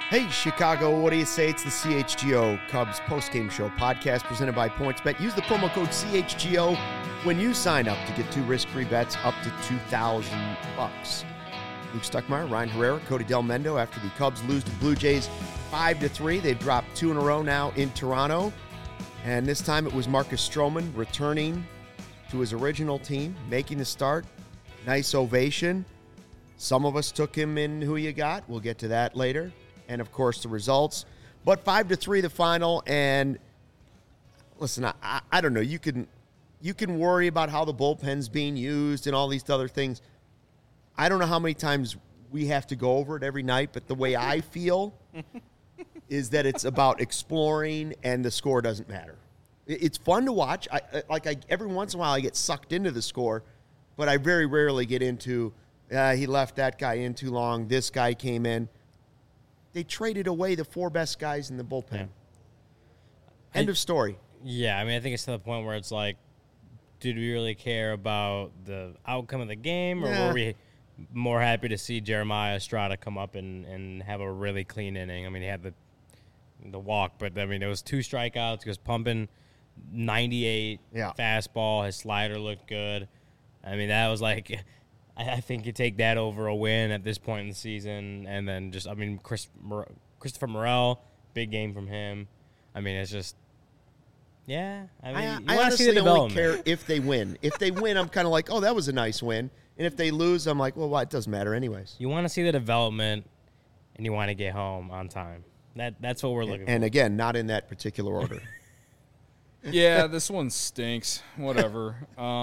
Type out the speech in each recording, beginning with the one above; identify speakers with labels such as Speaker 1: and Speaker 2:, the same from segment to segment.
Speaker 1: Hey, Chicago, what do you say? It's the CHGO Cubs postgame show podcast presented by PointsBet. Use the promo code CHGO when you sign up to get 2 risk-free bets up to $2,000. Luke Stuckmeyer, Ryan Herrera, Cody Del Mendo. After the Cubs lose to Blue Jays 5-3, they've dropped 2 in a row now in Toronto. And this time it was Marcus Stroman returning to his original team, making the start. Nice ovation. Some of us took him in who you got. We'll get to that later. And, of course, the results. But 5-3 the final. And, listen, I don't know. You can worry about how the bullpen's being used and all these other things. I don't know how many times we have to go over it every night, but the way I feel is that it's about exploring and the score doesn't matter. It's fun to watch. Every once in a while I get sucked into the score, but I very rarely get into, he left that guy in too long, this guy came in. They traded away the 4 best guys in the bullpen. Yeah. End of story.
Speaker 2: Yeah, I mean, I think it's to the point where it's like, did we really care about the outcome of the game, or were we more happy to see Jeremiah Estrada come up and have a really clean inning? I mean, he had the walk, but, I mean, it was 2 strikeouts. He was pumping 98 fastball. His slider looked good. I mean, that was like – I think you take that over a win at this point in the season. And then just, I mean, Christopher Morel, big game from him. I mean, it's just, I mean, you want to see the development. I honestly only care if they win. If they win, I'm kind of like, oh, that was a nice win. And if they lose, I'm like, well, it doesn't matter anyways. You want to see the development, and you want to get home on time. That's what we're looking for.
Speaker 1: And again, not in that particular order.
Speaker 3: Yeah, this one stinks. Whatever.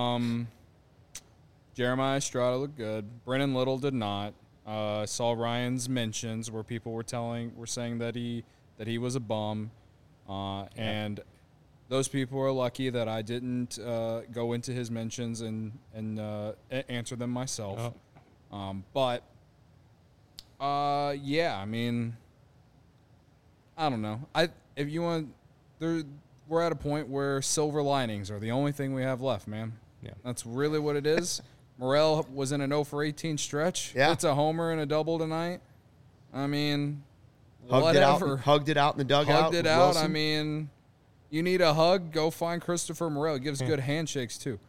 Speaker 3: Jeremiah Estrada looked good. Brennan Little did not. Saw Ryan's mentions where people were saying that he was a bum, and those people are lucky that I didn't go into his mentions and answer them myself. But I mean, I don't know. If you want, we're at a point where silver linings are the only thing we have left, man. Yeah, that's really what it is. Morel was in an 0-for-18 stretch. Yeah. It's a homer and a double tonight. I mean, whatever.
Speaker 1: Hugged it out in the dugout.
Speaker 3: Hugged it out. Wilson. I mean, you need a hug, go find Christopher Morel. He gives good handshakes, too.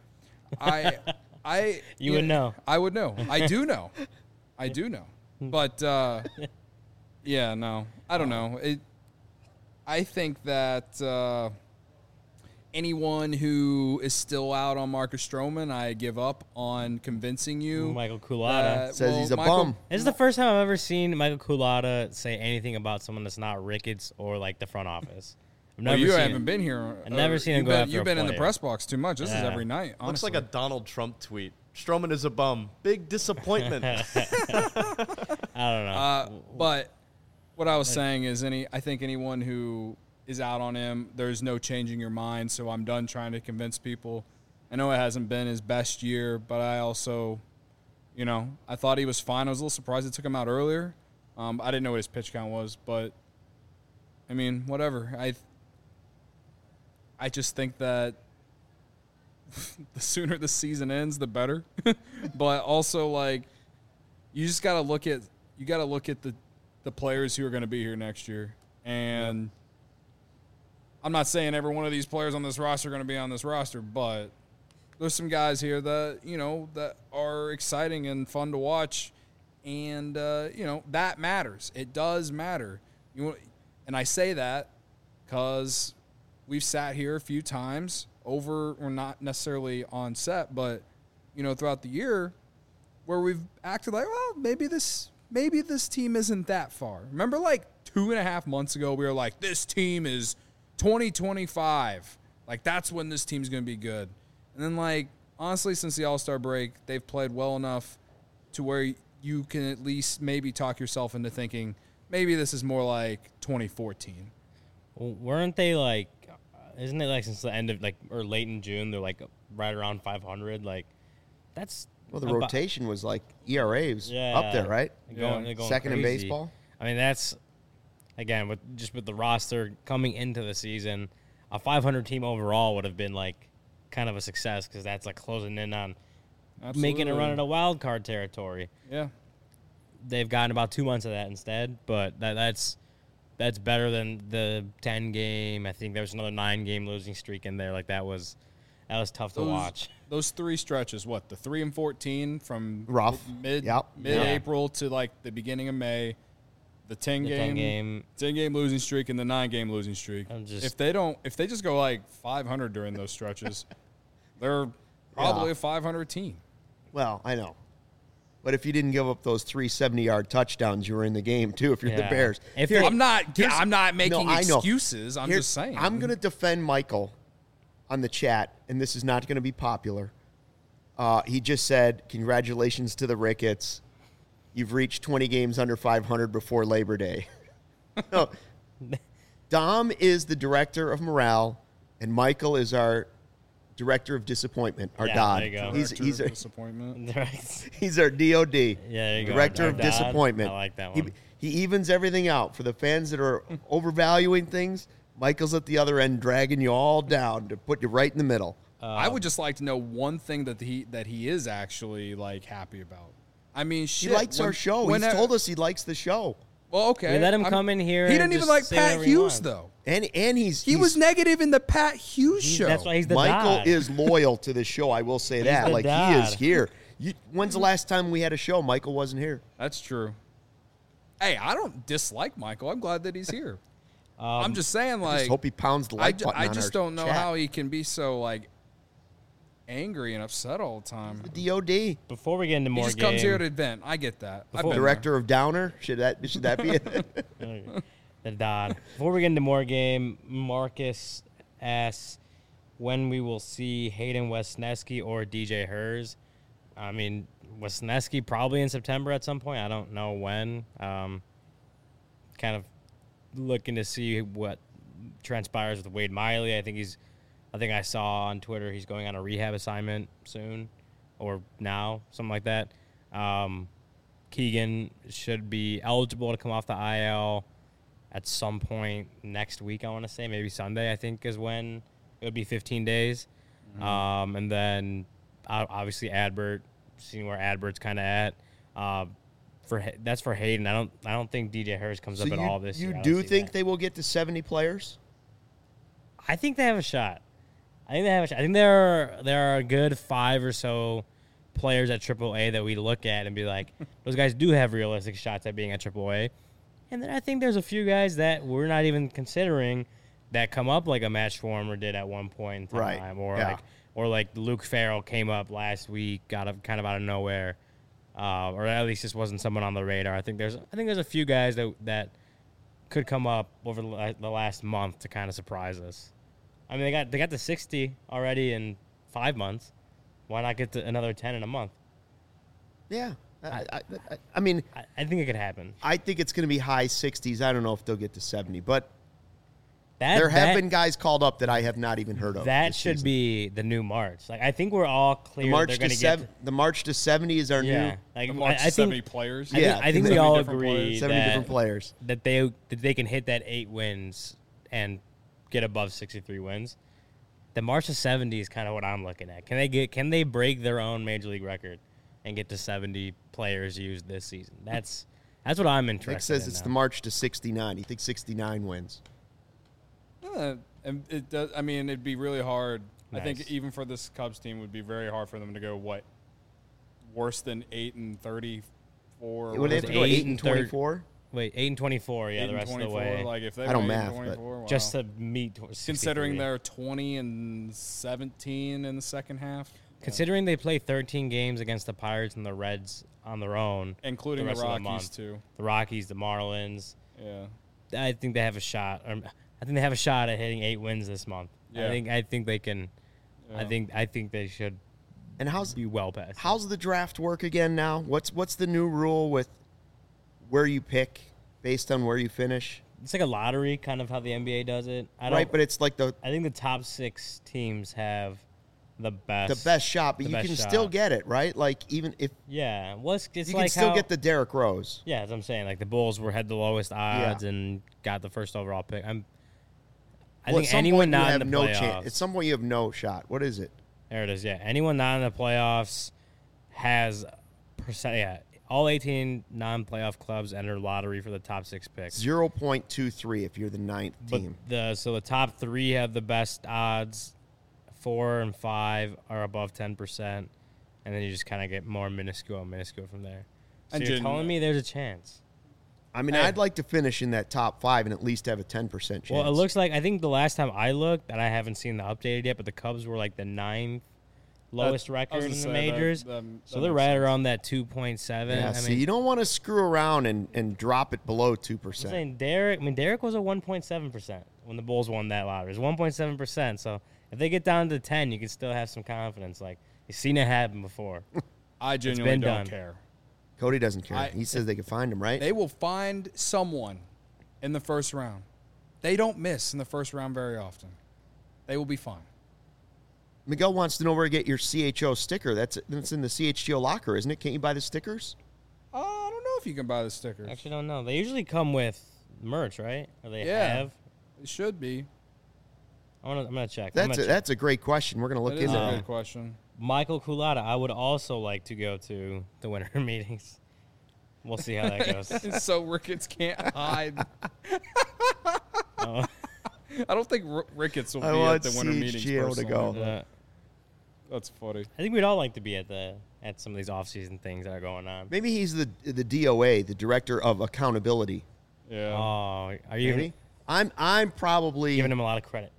Speaker 2: You would know.
Speaker 3: I would know. I do know. But, no. I don't know. I think that anyone who is still out on Marcus Stroman, I give up on convincing you.
Speaker 2: Michael Culotta
Speaker 1: says he's a bum.
Speaker 2: This is the first time I've ever seen Michael Culotta say anything about someone that's not Ricketts or like the front office.
Speaker 3: Haven't been here.
Speaker 2: I've never seen him go after
Speaker 3: You've been in the press box too much. This is every night, honestly.
Speaker 4: Looks like a Donald Trump tweet. Stroman is a bum. Big disappointment.
Speaker 2: I don't know.
Speaker 3: But what I was saying is I think anyone who is out on him, there's no changing your mind, so I'm done trying to convince people. I know it hasn't been his best year, but I also, I thought he was fine. I was a little surprised it took him out earlier. I didn't know what his pitch count was, but, I mean, whatever. I just think that the sooner the season ends, the better. But also, like, you just got to look at the players who are going to be here next year. And I'm not saying every one of these players on this roster are going to be on this roster, but there's some guys here that, that are exciting and fun to watch. And, that matters. It does matter. And I say that because we've sat here a few times or not necessarily on set, but, throughout the year where we've acted like, well, maybe this team isn't that far. Remember, like 2.5 months ago, we were like, this team is 2025. Like, that's when this team's going to be good. And then, like, honestly, since the All-Star break, they've played well enough to where you can at least maybe talk yourself into thinking maybe this is more like 2014.
Speaker 2: Well, weren't they, like, isn't it, like, since the end of, like, or late in June, they're, like, right around 500? Like, that's...
Speaker 1: Well, the rotation was, like, ERAs up there, right?
Speaker 2: They're going
Speaker 1: second
Speaker 2: crazy.
Speaker 1: in baseball.
Speaker 2: I mean, that's... Again, with the roster coming into the season, a 500 team overall would have been like kind of a success because that's like closing in on making a run at a wild card territory.
Speaker 3: Yeah,
Speaker 2: they've gotten about 2 months of that instead, but that's that's better than the 10-game. I think there was another 9-game losing streak in there. Like that was tough to watch.
Speaker 3: Those 3 stretches, what, the 3 and 14 from
Speaker 1: Rough.
Speaker 3: mid-April to like the beginning of May, the 10-game losing streak and the 9-game losing streak. If they just go like 500 during those stretches, they're probably a 500 team.
Speaker 1: Well, I know. But if you didn't give up those 3 70-yard touchdowns, you were in the game too. If you're the Bears,
Speaker 3: I'm not making excuses. I'm just saying.
Speaker 1: I'm going to defend Michael on the chat, and this is not going to be popular. He just said, "Congratulations to the Ricketts. You've reached 20 games under 500 before Labor Day." No. Dom is the director of morale, and Michael is our director of disappointment, our DOD.
Speaker 2: There you go.
Speaker 3: He's our disappointment.
Speaker 1: He's our DOD.
Speaker 2: Yeah, there you go.
Speaker 1: Director
Speaker 2: Our
Speaker 1: of
Speaker 2: DOD.
Speaker 1: disappointment.
Speaker 2: I like that one.
Speaker 1: He evens everything out. For the fans that are overvaluing things, Michael's at the other end dragging you all down to put you right in the middle.
Speaker 3: I would just like to know one thing that he is actually like happy about. I mean, shit.
Speaker 1: He likes our show. He's told us he likes the show.
Speaker 3: Well, okay.
Speaker 2: We let him come in here.
Speaker 3: He
Speaker 2: and
Speaker 3: didn't even
Speaker 2: just
Speaker 3: like
Speaker 2: say
Speaker 3: Pat
Speaker 2: whatever he
Speaker 3: Hughes
Speaker 2: wants.
Speaker 3: though.
Speaker 1: And
Speaker 3: He was negative in the Pat Hughes show.
Speaker 2: That's why he's the
Speaker 1: Michael
Speaker 2: DOD.
Speaker 1: is loyal to the show. I will say that.
Speaker 2: the
Speaker 1: Like he is
Speaker 2: DOD.
Speaker 1: here. When's the last time we had a show? Michael wasn't here.
Speaker 3: That's true. Hey, I don't dislike Michael. I'm glad that he's here. I'm just saying, like,
Speaker 1: I just hope he pounds the like button.
Speaker 3: I
Speaker 1: on
Speaker 3: just
Speaker 1: our
Speaker 3: don't know
Speaker 1: chat.
Speaker 3: how he can be so like angry and upset all the time.
Speaker 1: The DOD,
Speaker 2: Before we get into
Speaker 3: He
Speaker 2: more
Speaker 3: just
Speaker 2: game,
Speaker 3: comes here to vent. I get that. I've been
Speaker 1: director of Downer. Should that be it?
Speaker 2: the DOD. Before we get into more game, Marcus asks when we will see Hayden Wesneski or DJ Hers. I mean, Wesneski probably in September at some point. I don't know when. Kind of looking to see what transpires with Wade Miley. I think I saw on Twitter he's going on a rehab assignment soon or now, something like that. Keegan should be eligible to come off the IL at some point next week, I want to say. Maybe Sunday, I think, is when it would be 15 days. And then obviously Adbert, seeing where Adbert's kind of at. That's for Hayden. I don't think DJ Hurst comes up at all this year.
Speaker 1: You
Speaker 2: I
Speaker 1: do
Speaker 2: don't see
Speaker 1: think
Speaker 2: that.
Speaker 1: they will get to 70 players?
Speaker 2: I think they have a shot. I think there are a good 5 or so players at AAA that we look at and be like, those guys do have realistic shots at being at AAA. And then I think there's a few guys that we're not even considering that come up like a Matt Schwarmer did at one point in time,
Speaker 1: Right.
Speaker 2: or like Luke Farrell came up last week, kind of out of nowhere, or at least just wasn't someone on the radar. I think there's a few guys that could come up over the last month to kind of surprise us. I mean, they got to 60 already in 5 months. Why not get to another 10 in a month?
Speaker 1: Yeah. I mean,
Speaker 2: I think it could happen.
Speaker 1: I think it's going to be high 60s. I don't know if they'll get to 70, but there have been guys called up that I have not even heard of.
Speaker 2: That should be the new March. Like I think we're all clear.
Speaker 1: The March to 70 is our new.
Speaker 2: Like
Speaker 3: March
Speaker 2: I think
Speaker 3: 70 players.
Speaker 2: I think we
Speaker 3: 70
Speaker 2: all
Speaker 3: different
Speaker 2: agree
Speaker 3: players.
Speaker 1: 70 different players.
Speaker 2: that they can hit that 8 wins and get above 63 wins. The March to 70 is kind of what I'm looking at. Can they break their own major league record and get to 70 players used this season? That's what I'm interested in.
Speaker 1: Nick says it's the March to 69. He thinks 69 wins.
Speaker 3: And it does. I mean, it'd be really hard.
Speaker 2: Nice.
Speaker 3: I think even for this Cubs team, it would be very hard for them to go worse than 8-34.
Speaker 1: Would they have to go 8-24?
Speaker 2: Wait, 8-24. Yeah,
Speaker 3: 8
Speaker 2: the rest
Speaker 3: and
Speaker 2: of the
Speaker 3: 24,
Speaker 2: way.
Speaker 3: Like if they
Speaker 1: I don't
Speaker 3: were
Speaker 1: math,
Speaker 3: 8-24,
Speaker 1: but
Speaker 3: wow.
Speaker 2: Just to meet 63.
Speaker 3: Considering they're 20-17 in the second half.
Speaker 2: Considering they play 13 games against the Pirates and the Reds on their own,
Speaker 3: Including the
Speaker 2: rest of
Speaker 3: Rockies,
Speaker 2: month.
Speaker 3: too.
Speaker 2: The Rockies, the Marlins,
Speaker 3: Yeah.
Speaker 2: I think they have a shot. I think they have a shot at hitting 8 wins this month.
Speaker 3: Yeah.
Speaker 2: I think they can.
Speaker 3: Yeah.
Speaker 2: I think they should
Speaker 1: And
Speaker 2: be well past.
Speaker 1: how's the draft work again now? What's the new rule with where you pick based on where you finish?
Speaker 2: It's like a lottery, kind of how the NBA does it.
Speaker 1: Right, but it's like
Speaker 2: I think the top 6 teams have the best
Speaker 1: shot, but
Speaker 2: the
Speaker 1: you
Speaker 2: best
Speaker 1: can
Speaker 2: shot.
Speaker 1: still get it, right? Like even if
Speaker 2: Yeah, well, it's
Speaker 1: you
Speaker 2: like
Speaker 1: can still
Speaker 2: how,
Speaker 1: get the Derrick Rose.
Speaker 2: Yeah, as I'm saying, like the Bulls had the lowest odds and got the first overall pick. I
Speaker 1: Well, at
Speaker 2: think
Speaker 1: some
Speaker 2: anyone
Speaker 1: point you
Speaker 2: not
Speaker 1: have
Speaker 2: in the
Speaker 1: no
Speaker 2: playoffs.
Speaker 1: chance. At some point you have no shot. What is it?
Speaker 2: There it is. Yeah, anyone not in the playoffs has all 18 non-playoff clubs enter lottery for the top 6 picks.
Speaker 1: 0.23 if you're the 9th team.
Speaker 2: So the top 3 have the best odds. 4 and 5 are above 10%, and then you just kind of get more minuscule from there. So
Speaker 3: And
Speaker 2: you're telling me there's a chance?
Speaker 1: I mean,
Speaker 3: Hey.
Speaker 1: I'd like to finish in that top 5 and at least have a 10% chance.
Speaker 2: Well, it looks like, I think the last time I looked, and I haven't seen the updated yet, but the Cubs were like the 9th lowest record in the majors. So they're right around that 2.7.
Speaker 1: Yeah,
Speaker 2: I
Speaker 1: see,
Speaker 2: mean,
Speaker 1: you don't want to screw around and drop it below 2%.
Speaker 2: I'm saying Derek was a 1.7% when the Bulls won that lottery. It was 1.7%. So if they get down to 10, you can still have some confidence. Like, you've seen it happen before.
Speaker 3: I genuinely
Speaker 2: been
Speaker 3: don't
Speaker 2: done.
Speaker 3: care.
Speaker 1: Cody doesn't care.
Speaker 3: I-
Speaker 1: He says they can find him, right?
Speaker 3: They will find someone in the first round. They don't miss in the first round very often. They will be fine.
Speaker 1: Miguel wants to know where to get your CHO sticker. That's in the CHGO locker, isn't it? Can't you buy the stickers?
Speaker 3: I don't know if you can buy the stickers.
Speaker 2: I actually don't know. They usually come with merch, right? Or they have?
Speaker 3: It should be.
Speaker 2: I'm gonna check.
Speaker 1: That's a great question. We're going to look
Speaker 3: That is
Speaker 1: into
Speaker 3: a
Speaker 1: that.
Speaker 3: good question.
Speaker 2: Michael Kulata, I would also like to go to the winter meetings. We'll see how that goes.
Speaker 3: So Ricketts can't hide.
Speaker 2: Oh.
Speaker 3: I don't think Ricketts will
Speaker 1: I
Speaker 3: be at
Speaker 1: want
Speaker 3: the winter meetings.
Speaker 1: CHGO to go.
Speaker 3: personally. That's funny.
Speaker 2: I think we'd all like to be at some of these off-season things that are going on.
Speaker 1: Maybe he's the DOA, the Director of Accountability.
Speaker 3: Yeah.
Speaker 2: Oh, are you
Speaker 1: Maybe. I'm probably
Speaker 2: giving him a lot of credit?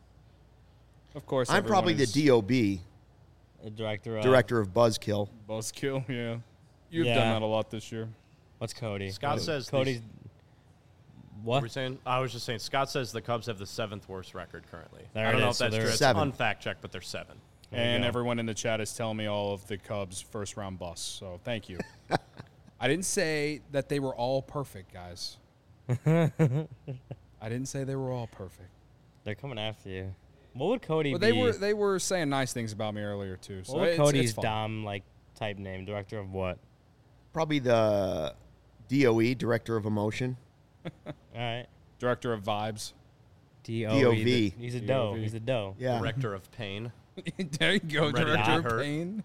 Speaker 3: Of course.
Speaker 1: I'm probably the
Speaker 3: everyone is
Speaker 1: DOB,
Speaker 2: The director
Speaker 1: Director of Buzzkill.
Speaker 3: Buzzkill. Yeah. You've
Speaker 2: Yeah.
Speaker 3: done that a lot this year.
Speaker 2: What's Cody?
Speaker 4: Scott says
Speaker 2: Cody's.
Speaker 4: What
Speaker 2: What?
Speaker 4: were you saying? I was just saying. Scott says the Cubs have the 7th worst record currently.
Speaker 2: There
Speaker 4: I don't
Speaker 2: it
Speaker 4: know
Speaker 2: is.
Speaker 4: if that's
Speaker 2: So
Speaker 4: true.
Speaker 2: they're
Speaker 4: It's
Speaker 1: 7.
Speaker 4: unfact checked, but they're 7.
Speaker 2: There you
Speaker 3: And
Speaker 2: go.
Speaker 3: everyone in the chat is telling me all of the Cubs' first round busts. So thank you. I didn't say that they were all perfect, guys. I didn't say they were all perfect.
Speaker 2: They're coming after you. What would Cody
Speaker 3: But
Speaker 2: be?
Speaker 3: they were saying nice things about me earlier too. So
Speaker 2: What would
Speaker 3: it's
Speaker 2: Cody's
Speaker 3: fine.
Speaker 2: Dom type name? Director of what?
Speaker 1: Probably the DOE, Director of Emotion.
Speaker 2: All right.
Speaker 3: Director of vibes.
Speaker 2: DOV.
Speaker 1: DOV.
Speaker 2: He's a doe.
Speaker 3: DOV.
Speaker 2: He's a doe.
Speaker 1: Yeah.
Speaker 4: Director of Pain.
Speaker 3: There you go,
Speaker 4: Ready to
Speaker 3: Director
Speaker 4: get
Speaker 3: of
Speaker 4: hurt.
Speaker 3: Pain.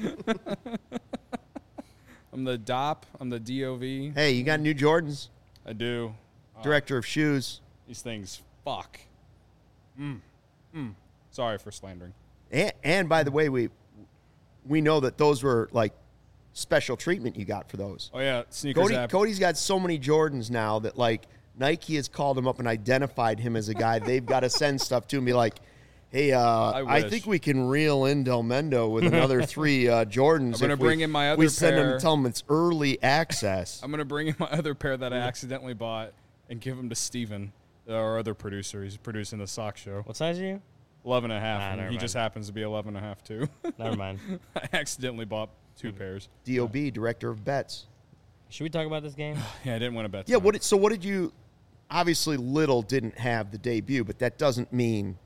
Speaker 3: I'm the DOP. I'm the DOV.
Speaker 1: Hey, you got new Jordans.
Speaker 3: I do.
Speaker 1: Director of Shoes.
Speaker 3: These things, fuck. Sorry for slandering.
Speaker 1: And by the way, we know that those were like special treatment you got for those.
Speaker 3: Oh yeah, sneakers app.
Speaker 1: Cody's got so many Jordans now that like Nike has called him up and identified him as a guy they've got to send stuff to and be like, hey, I
Speaker 3: wish.
Speaker 1: think we can reel in Del Mendo with another 3 Jordans.
Speaker 3: I'm gonna
Speaker 1: if
Speaker 3: bring in my other
Speaker 1: we send him
Speaker 3: pair.
Speaker 1: and tell him it's early access.
Speaker 3: I'm gonna bring in my other pair that I accidentally bought and give them to Steven, our other producer. He's producing the sock show.
Speaker 2: What size are you?
Speaker 3: 11 and a half.
Speaker 2: Ah,
Speaker 3: and
Speaker 2: never
Speaker 3: he just
Speaker 2: mind.
Speaker 3: happens to be 11 and a half too.
Speaker 2: Never mind.
Speaker 3: I accidentally bought 2 pairs.
Speaker 1: DOB, Director of Bets.
Speaker 2: Should we talk about this game?
Speaker 3: Yeah, I didn't win a bet.
Speaker 1: Yeah,
Speaker 3: tonight.
Speaker 1: what did you obviously Little didn't have the debut, but that doesn't mean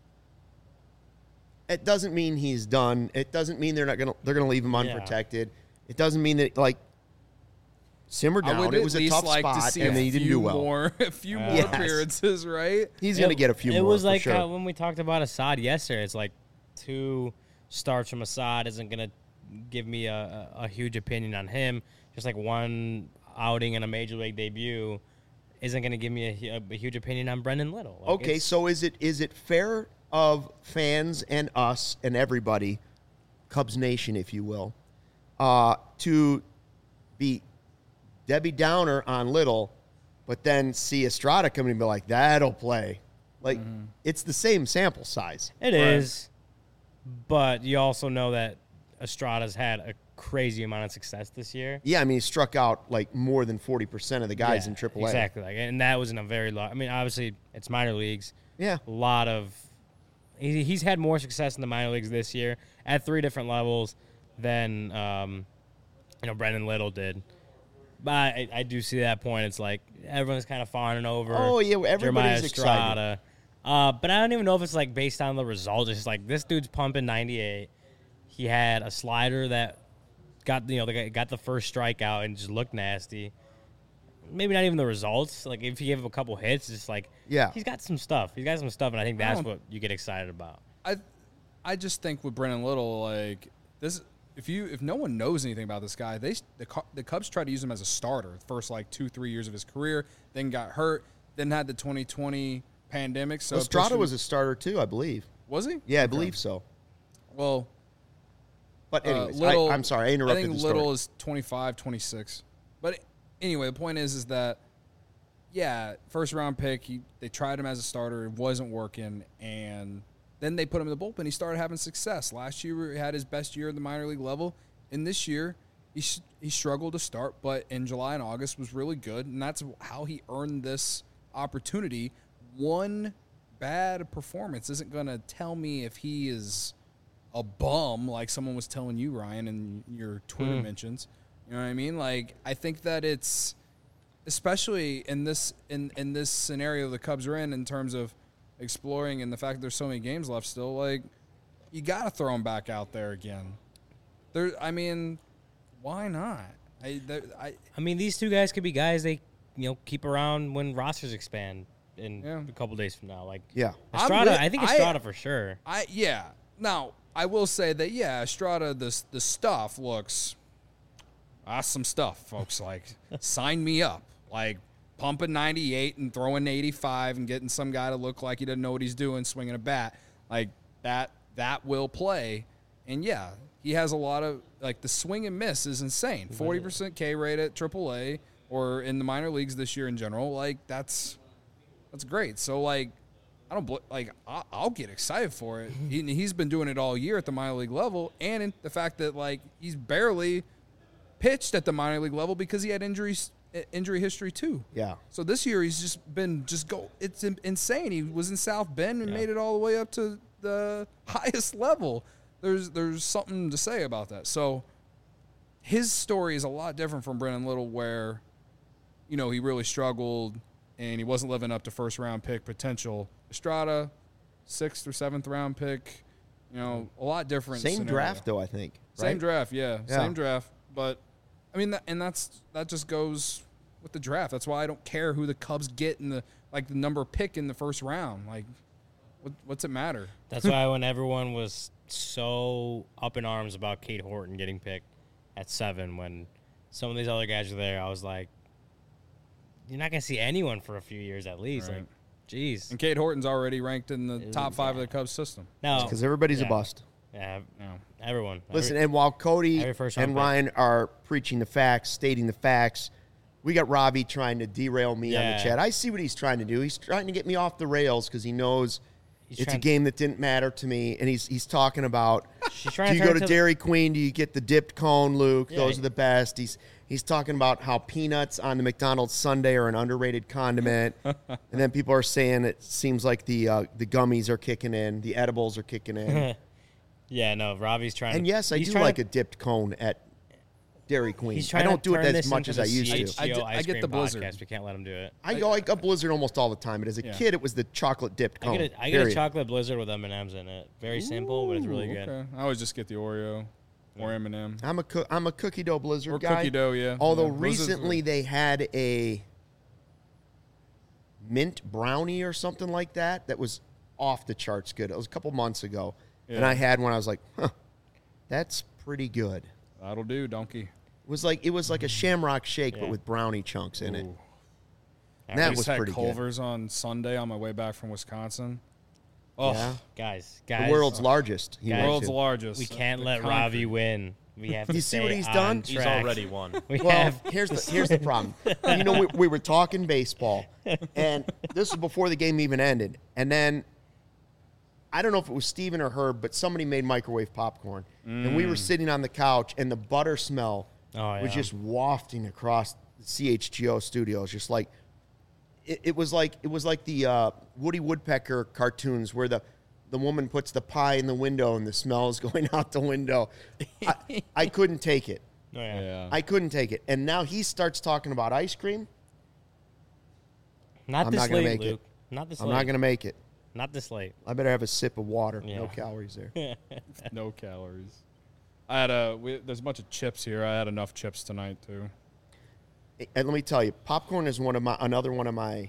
Speaker 1: he's done. It doesn't mean they're going to leave him
Speaker 2: Yeah.
Speaker 1: unprotected. It doesn't mean that like simmer
Speaker 3: I
Speaker 1: down.
Speaker 3: would
Speaker 1: It
Speaker 3: at
Speaker 1: was a
Speaker 3: least
Speaker 1: tough
Speaker 3: like to
Speaker 1: spot
Speaker 3: see
Speaker 1: and
Speaker 3: a
Speaker 1: then he didn't
Speaker 3: few
Speaker 1: do well.
Speaker 3: more, a few more
Speaker 1: Yes.
Speaker 3: appearances, right?
Speaker 1: He's going to get a few more.
Speaker 2: It was
Speaker 1: for
Speaker 2: like
Speaker 1: sure.
Speaker 2: when we talked about Assad yesterday. It's like 2 starts from Assad isn't going to give me a huge opinion on him. Just like 1 outing in a major league debut isn't going to give me a huge opinion on Brendan Little. Like,
Speaker 1: Okay, so is it fair of fans and us and everybody, Cubs Nation, if you will, to be Debbie Downer on Little, but then see Estrada come in and be like, that'll play. Like, it's the same sample size.
Speaker 2: It is, but you also know that Estrada's had a crazy amount of success this year.
Speaker 1: Yeah, I mean, he struck out like more than 40% of the guys
Speaker 2: Yeah,
Speaker 1: in AAA.
Speaker 2: Exactly. And that was in a very low. I mean, obviously, it's minor leagues.
Speaker 1: Yeah.
Speaker 2: A lot of. He's had more success in the minor leagues this year at 3 different levels than Brendan Little did. But I do see that point. It's like everyone's kind of fawning over.
Speaker 1: Oh, yeah, everybody's
Speaker 2: Jeremiah
Speaker 1: excited.
Speaker 2: Estrada. But I don't even know if it's like based on the results. It's just like this dude's pumping 98. He had a slider that got the first strikeout and just looked nasty. Maybe not even the results. Like if he gave him a couple hits, it's just like he's got some stuff. He's got some stuff, and I think that's what you get excited about.
Speaker 3: I just think with Brennan Little, like this, if no one knows anything about this guy, the Cubs tried to use him as a starter the first like 2-3 years of his career, then got hurt, then had the 2020 pandemic. So
Speaker 1: Estrada was a starter too, I believe.
Speaker 3: Was he?
Speaker 1: Yeah, I believe so.
Speaker 3: Well,
Speaker 1: but anyways,
Speaker 3: Little,
Speaker 1: I'm sorry, I interrupted
Speaker 3: I think
Speaker 1: the story.
Speaker 3: Little is 25, 26. But anyway, the point is that, yeah, first-round pick, they tried him as a starter. It wasn't working, and then they put him in the bullpen. He started having success. Last year, he had his best year at the minor league level. And this year, he struggled to start, but in July and August was really good, and that's how he earned this opportunity. One bad performance isn't going to tell me if he is a bum, like someone was telling you, Ryan, in your Twitter mentions. You know what I mean? Like, I think that it's, especially in this scenario the Cubs are in terms of exploring and the fact that there's so many games left still, like, you got to throw him back out there again. I mean, why not? I
Speaker 2: mean, these two guys could be guys they keep around when rosters expand in a couple days from now. Like, Estrada, I think Estrada for sure.
Speaker 3: Now, I will say that, Estrada, the stuff looks, that's some stuff, folks. Like, sign me up. Like, pumping 98 and throwing 85 and getting some guy to look like he doesn't know what he's doing, swinging a bat. Like, that will play. And, he has a lot of, like, the swing and miss is insane. 40% K rate at AAA or in the minor leagues this year in general. Like, that's great. So, like, I'll get excited for it. He's been doing it all year at the minor league level, and in the fact that, like, he's barely pitched at the minor league level because he had injury history too. Yeah. So this year he's just been it's insane. He was in South Bend and made it all the way up to the highest level. There's something to say about that. So his story is a lot different from Brennan Little, where, he really struggled and he wasn't living up to first round pick potential. Estrada, 6th or 7th round pick, a lot different.
Speaker 1: Same
Speaker 3: scenario.
Speaker 1: draft though, I think. Right?
Speaker 3: Same draft, same draft. But I mean, that just goes with the draft. That's why I don't care who the Cubs get in the number pick in the first round. Like, what's it matter?
Speaker 2: That's why when everyone was so up in arms about Cade Horton getting picked at 7, when some of these other guys were there, I was like, you're not going to see anyone for a few years at least. Right. Like, jeez.
Speaker 3: And Cade Horton's already ranked in the top 5 of the Cubs system.
Speaker 2: No,
Speaker 1: because everybody's a bust.
Speaker 2: Yeah, everyone.
Speaker 1: Listen, and while Cody and Ryan are preaching the facts, stating the facts, we got Robbie trying to derail me on the chat. I see what he's trying to do. He's trying to get me off the rails because he knows it's a game that didn't matter to me. And he's talking about, do you go to Dairy Queen? Do you get the dipped cone, Luke? Yeah, those are the best. He's talking about how peanuts on the McDonald's sundae are an underrated condiment. And then people are saying it seems like the gummies are kicking in. The edibles are kicking in.
Speaker 2: Yeah, no, Robbie's trying
Speaker 1: and yes, I do like a dipped cone at Dairy Queen. I don't do it as much as I used to.
Speaker 3: I get the Blizzard.
Speaker 2: Podcast. We can't let him do it.
Speaker 1: I got Blizzard almost all the time, but as a kid, it was the chocolate dipped cone.
Speaker 2: I get a chocolate Blizzard with M&Ms in it. Very simple, but it's really good.
Speaker 3: Okay. I always just get the Oreo or M&M.
Speaker 1: I'm a cookie dough Blizzard guy.
Speaker 3: Cookie dough, yeah.
Speaker 1: Although recently they had a mint brownie or something like that was off the charts good. It was a couple months ago. Yeah. And I had one. I was like, that's pretty good.
Speaker 3: That'll do, donkey.
Speaker 1: It was like a Shamrock Shake, but with brownie chunks in it. And that was pretty
Speaker 3: Culver's on Sunday on my way back from Wisconsin.
Speaker 2: Oh, yeah. Guys.
Speaker 1: The world's largest.
Speaker 3: World's largest.
Speaker 2: We can't let Ravi win. We have to
Speaker 1: you see what he's done?
Speaker 2: Track.
Speaker 4: He's already won.
Speaker 1: Here's the problem. We were talking baseball, and this was before the game even ended. And then I don't know if it was Steven or Herb, but somebody made microwave popcorn. And we were sitting on the couch, and the butter smell was just wafting across the CHGO studios. Just like it was like the Woody Woodpecker cartoons where the woman puts the pie in the window and the smell is going out the window. I couldn't take it.
Speaker 2: Oh, yeah.
Speaker 1: I couldn't take it. And now he starts talking about ice cream.
Speaker 2: I'm not going to make it.
Speaker 1: I'm not going to make it.
Speaker 2: Not this late.
Speaker 1: I better have a sip of water. Yeah. No calories there.
Speaker 3: No calories. I had there's a bunch of chips here. I had enough chips tonight too.
Speaker 1: And let me tell you, popcorn is another one of my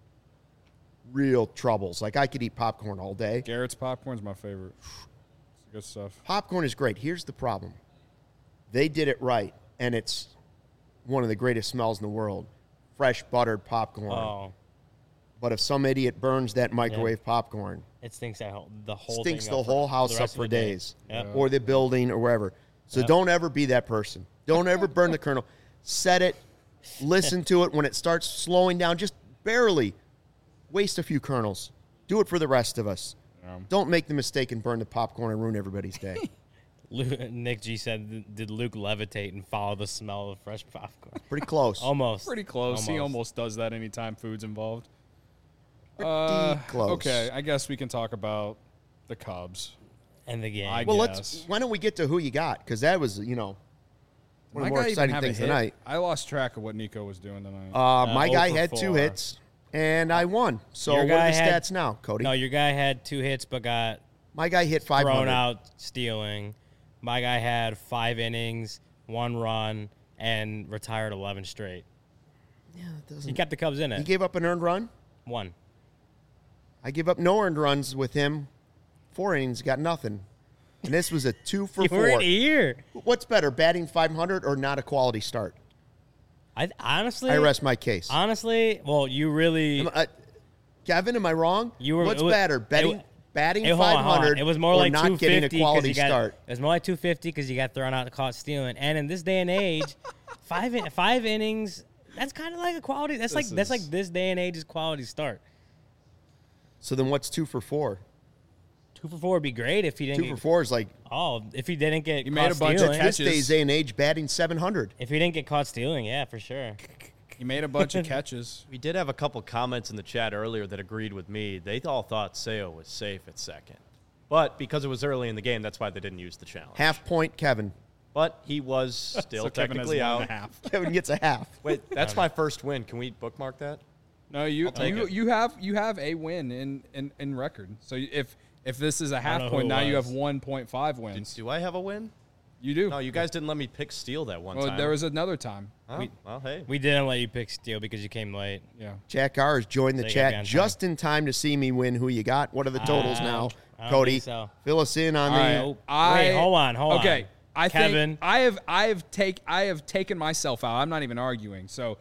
Speaker 1: real troubles. Like, I could eat popcorn all day.
Speaker 3: Garrett's popcorn's my favorite. Good stuff.
Speaker 1: Popcorn is great. Here's the problem. They did it right, and it's one of the greatest smells in the world. Fresh buttered popcorn.
Speaker 2: Oh,
Speaker 1: But if some idiot burns that microwave popcorn,
Speaker 2: it stinks the whole
Speaker 1: stinks
Speaker 2: thing
Speaker 1: the
Speaker 2: up
Speaker 1: whole
Speaker 2: the
Speaker 1: house up
Speaker 2: rest of
Speaker 1: for
Speaker 2: the day.
Speaker 1: days.
Speaker 2: Yep.
Speaker 1: Or the building or wherever. So don't ever be that person. Don't ever burn the kernel. Set it. Listen to it when it starts slowing down. Just barely waste a few kernels. Do it for the rest of us. Don't make the mistake and burn the popcorn and ruin everybody's day.
Speaker 2: Nick G said, "Did Luke levitate and follow the smell of fresh popcorn?"
Speaker 1: Pretty close.
Speaker 2: Almost.
Speaker 3: Pretty close. He almost does that anytime food's involved.
Speaker 1: Pretty close.
Speaker 3: Okay, I guess we can talk about the Cubs.
Speaker 2: And the game.
Speaker 1: Well,
Speaker 3: Yes.
Speaker 1: why don't we get to who you got? Because that was, one of the more
Speaker 3: guy even
Speaker 1: exciting
Speaker 3: have a
Speaker 1: things
Speaker 3: hit?
Speaker 1: tonight.
Speaker 3: I lost track of what Nico was doing tonight.
Speaker 1: My guy
Speaker 2: 0 for
Speaker 1: had 2
Speaker 2: 4.
Speaker 1: hits, and I won. So
Speaker 2: Your
Speaker 1: what are
Speaker 2: guy
Speaker 1: the
Speaker 2: had-
Speaker 1: stats now, Cody?
Speaker 2: No, your guy had 2 hits but got
Speaker 1: My guy hit 500.
Speaker 2: thrown out stealing. My guy had 5 innings, 1 run, and retired 11 straight.
Speaker 1: Yeah, it doesn't.
Speaker 2: He kept the Cubs in
Speaker 1: He
Speaker 2: it.
Speaker 1: gave up an earned run.
Speaker 2: 1.
Speaker 1: I give up no earned runs with him. 4 innings, got nothing. And this was a 2 for
Speaker 2: You
Speaker 1: 4.
Speaker 2: were in here.
Speaker 1: What's better, batting 500 or not a quality start?
Speaker 2: Honestly,
Speaker 1: I rest my case.
Speaker 2: Honestly, well, you really.
Speaker 1: Kevin, am I wrong?
Speaker 2: You were-
Speaker 1: What's
Speaker 2: it was-
Speaker 1: better, batting
Speaker 2: Hey, hold on, hold on.
Speaker 1: 500
Speaker 2: It was more
Speaker 1: or
Speaker 2: like
Speaker 1: not
Speaker 2: 250
Speaker 1: getting a
Speaker 2: 'cause
Speaker 1: quality
Speaker 2: you got,
Speaker 1: start?
Speaker 2: It was more like 250 because you got thrown out caught stealing. And in this day and age, 5 innings. That's kind of like a quality. That's like this day and age's quality start.
Speaker 1: So then what's 2 for 4?
Speaker 2: 2 for 4 would be great if he didn't.
Speaker 1: 2 for 4 is like
Speaker 2: If he didn't get.
Speaker 3: You
Speaker 2: caught
Speaker 3: made a bunch of
Speaker 2: stealing.
Speaker 3: catches.
Speaker 1: this day's day and age batting 700.
Speaker 2: If he didn't get caught stealing, yeah, for sure.
Speaker 3: He made a bunch of catches.
Speaker 4: We did have a couple comments in the chat earlier that agreed with me. They all thought Seo was safe at second. But because it was early in the game, that's why they didn't use the challenge.
Speaker 1: Half point, Kevin.
Speaker 4: But he was still
Speaker 3: So Kevin has
Speaker 4: technically
Speaker 3: 1.5.
Speaker 4: out.
Speaker 1: Kevin gets a half.
Speaker 4: Wait, that's my first win. Can we bookmark that?
Speaker 3: No, you
Speaker 4: take it.
Speaker 3: you have a win in record. So if this is a
Speaker 2: know
Speaker 3: half
Speaker 2: who
Speaker 3: point,
Speaker 2: it
Speaker 3: now you have
Speaker 2: was.
Speaker 3: 1.5 wins.
Speaker 4: Do I have a win?
Speaker 3: You do.
Speaker 4: No, you guys didn't let me pick Steele that one
Speaker 3: Well,
Speaker 4: time.
Speaker 3: there was another time.
Speaker 4: Oh, well, hey.
Speaker 2: We didn't let you pick Steele because you came late.
Speaker 3: Yeah.
Speaker 1: Jack R has joined the
Speaker 2: They gotta be
Speaker 1: chat
Speaker 2: on
Speaker 1: just in time to see me win who you got. What are the totals now?
Speaker 2: I don't
Speaker 1: Cody,
Speaker 2: think so.
Speaker 1: fill us in on
Speaker 3: All
Speaker 1: the.
Speaker 3: right.
Speaker 2: Nope.
Speaker 3: I-
Speaker 2: Wait, hold on.
Speaker 3: Okay. I
Speaker 2: Kevin.
Speaker 3: think I have taken myself out. I'm not even arguing. So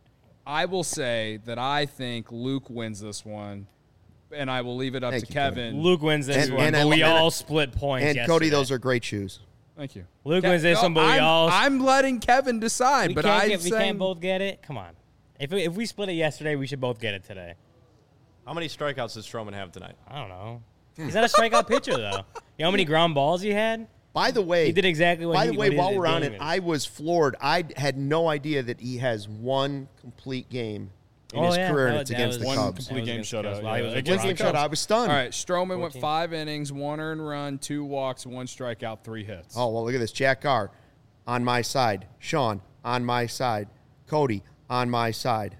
Speaker 3: I will say that I think Luke wins this one, and I will leave it up
Speaker 1: Thank
Speaker 3: to
Speaker 1: you,
Speaker 3: Kevin.
Speaker 2: Luke wins this
Speaker 1: And-
Speaker 2: one,
Speaker 1: and
Speaker 2: but
Speaker 1: I-
Speaker 2: we
Speaker 1: and I-
Speaker 2: all split points.
Speaker 1: And
Speaker 2: yesterday.
Speaker 1: Cody, those are great shoes.
Speaker 3: Thank you.
Speaker 2: Luke wins this one, but we all.
Speaker 3: I'm letting Kevin decide,
Speaker 2: we
Speaker 3: but
Speaker 2: we can't both get it. Come on. If we split it yesterday, we should both get it today.
Speaker 4: How many strikeouts does Stroman have tonight?
Speaker 2: I don't know. He's not a strikeout pitcher though. You know how many ground balls he had?
Speaker 1: By the way,
Speaker 2: He did exactly what
Speaker 1: By
Speaker 2: he
Speaker 1: the way,
Speaker 2: what
Speaker 1: while
Speaker 2: his
Speaker 1: we're on
Speaker 2: game
Speaker 1: it,
Speaker 2: is.
Speaker 1: I was floored. I had no idea that he has one complete game in his career, and it's against the
Speaker 3: one
Speaker 1: Cubs.
Speaker 3: complete game shutout.
Speaker 2: While he was
Speaker 3: Yeah.
Speaker 2: with
Speaker 1: One
Speaker 2: the
Speaker 1: game
Speaker 2: Broncos.
Speaker 1: shutout. I was stunned.
Speaker 3: All right, Stroman went
Speaker 2: 14.
Speaker 3: 5 innings, 1 earned run, 2 walks, 1 strikeout, 3 hits.
Speaker 1: Oh, well, look at this. Jack Carr on my side. Sean on my side. Cody on my side.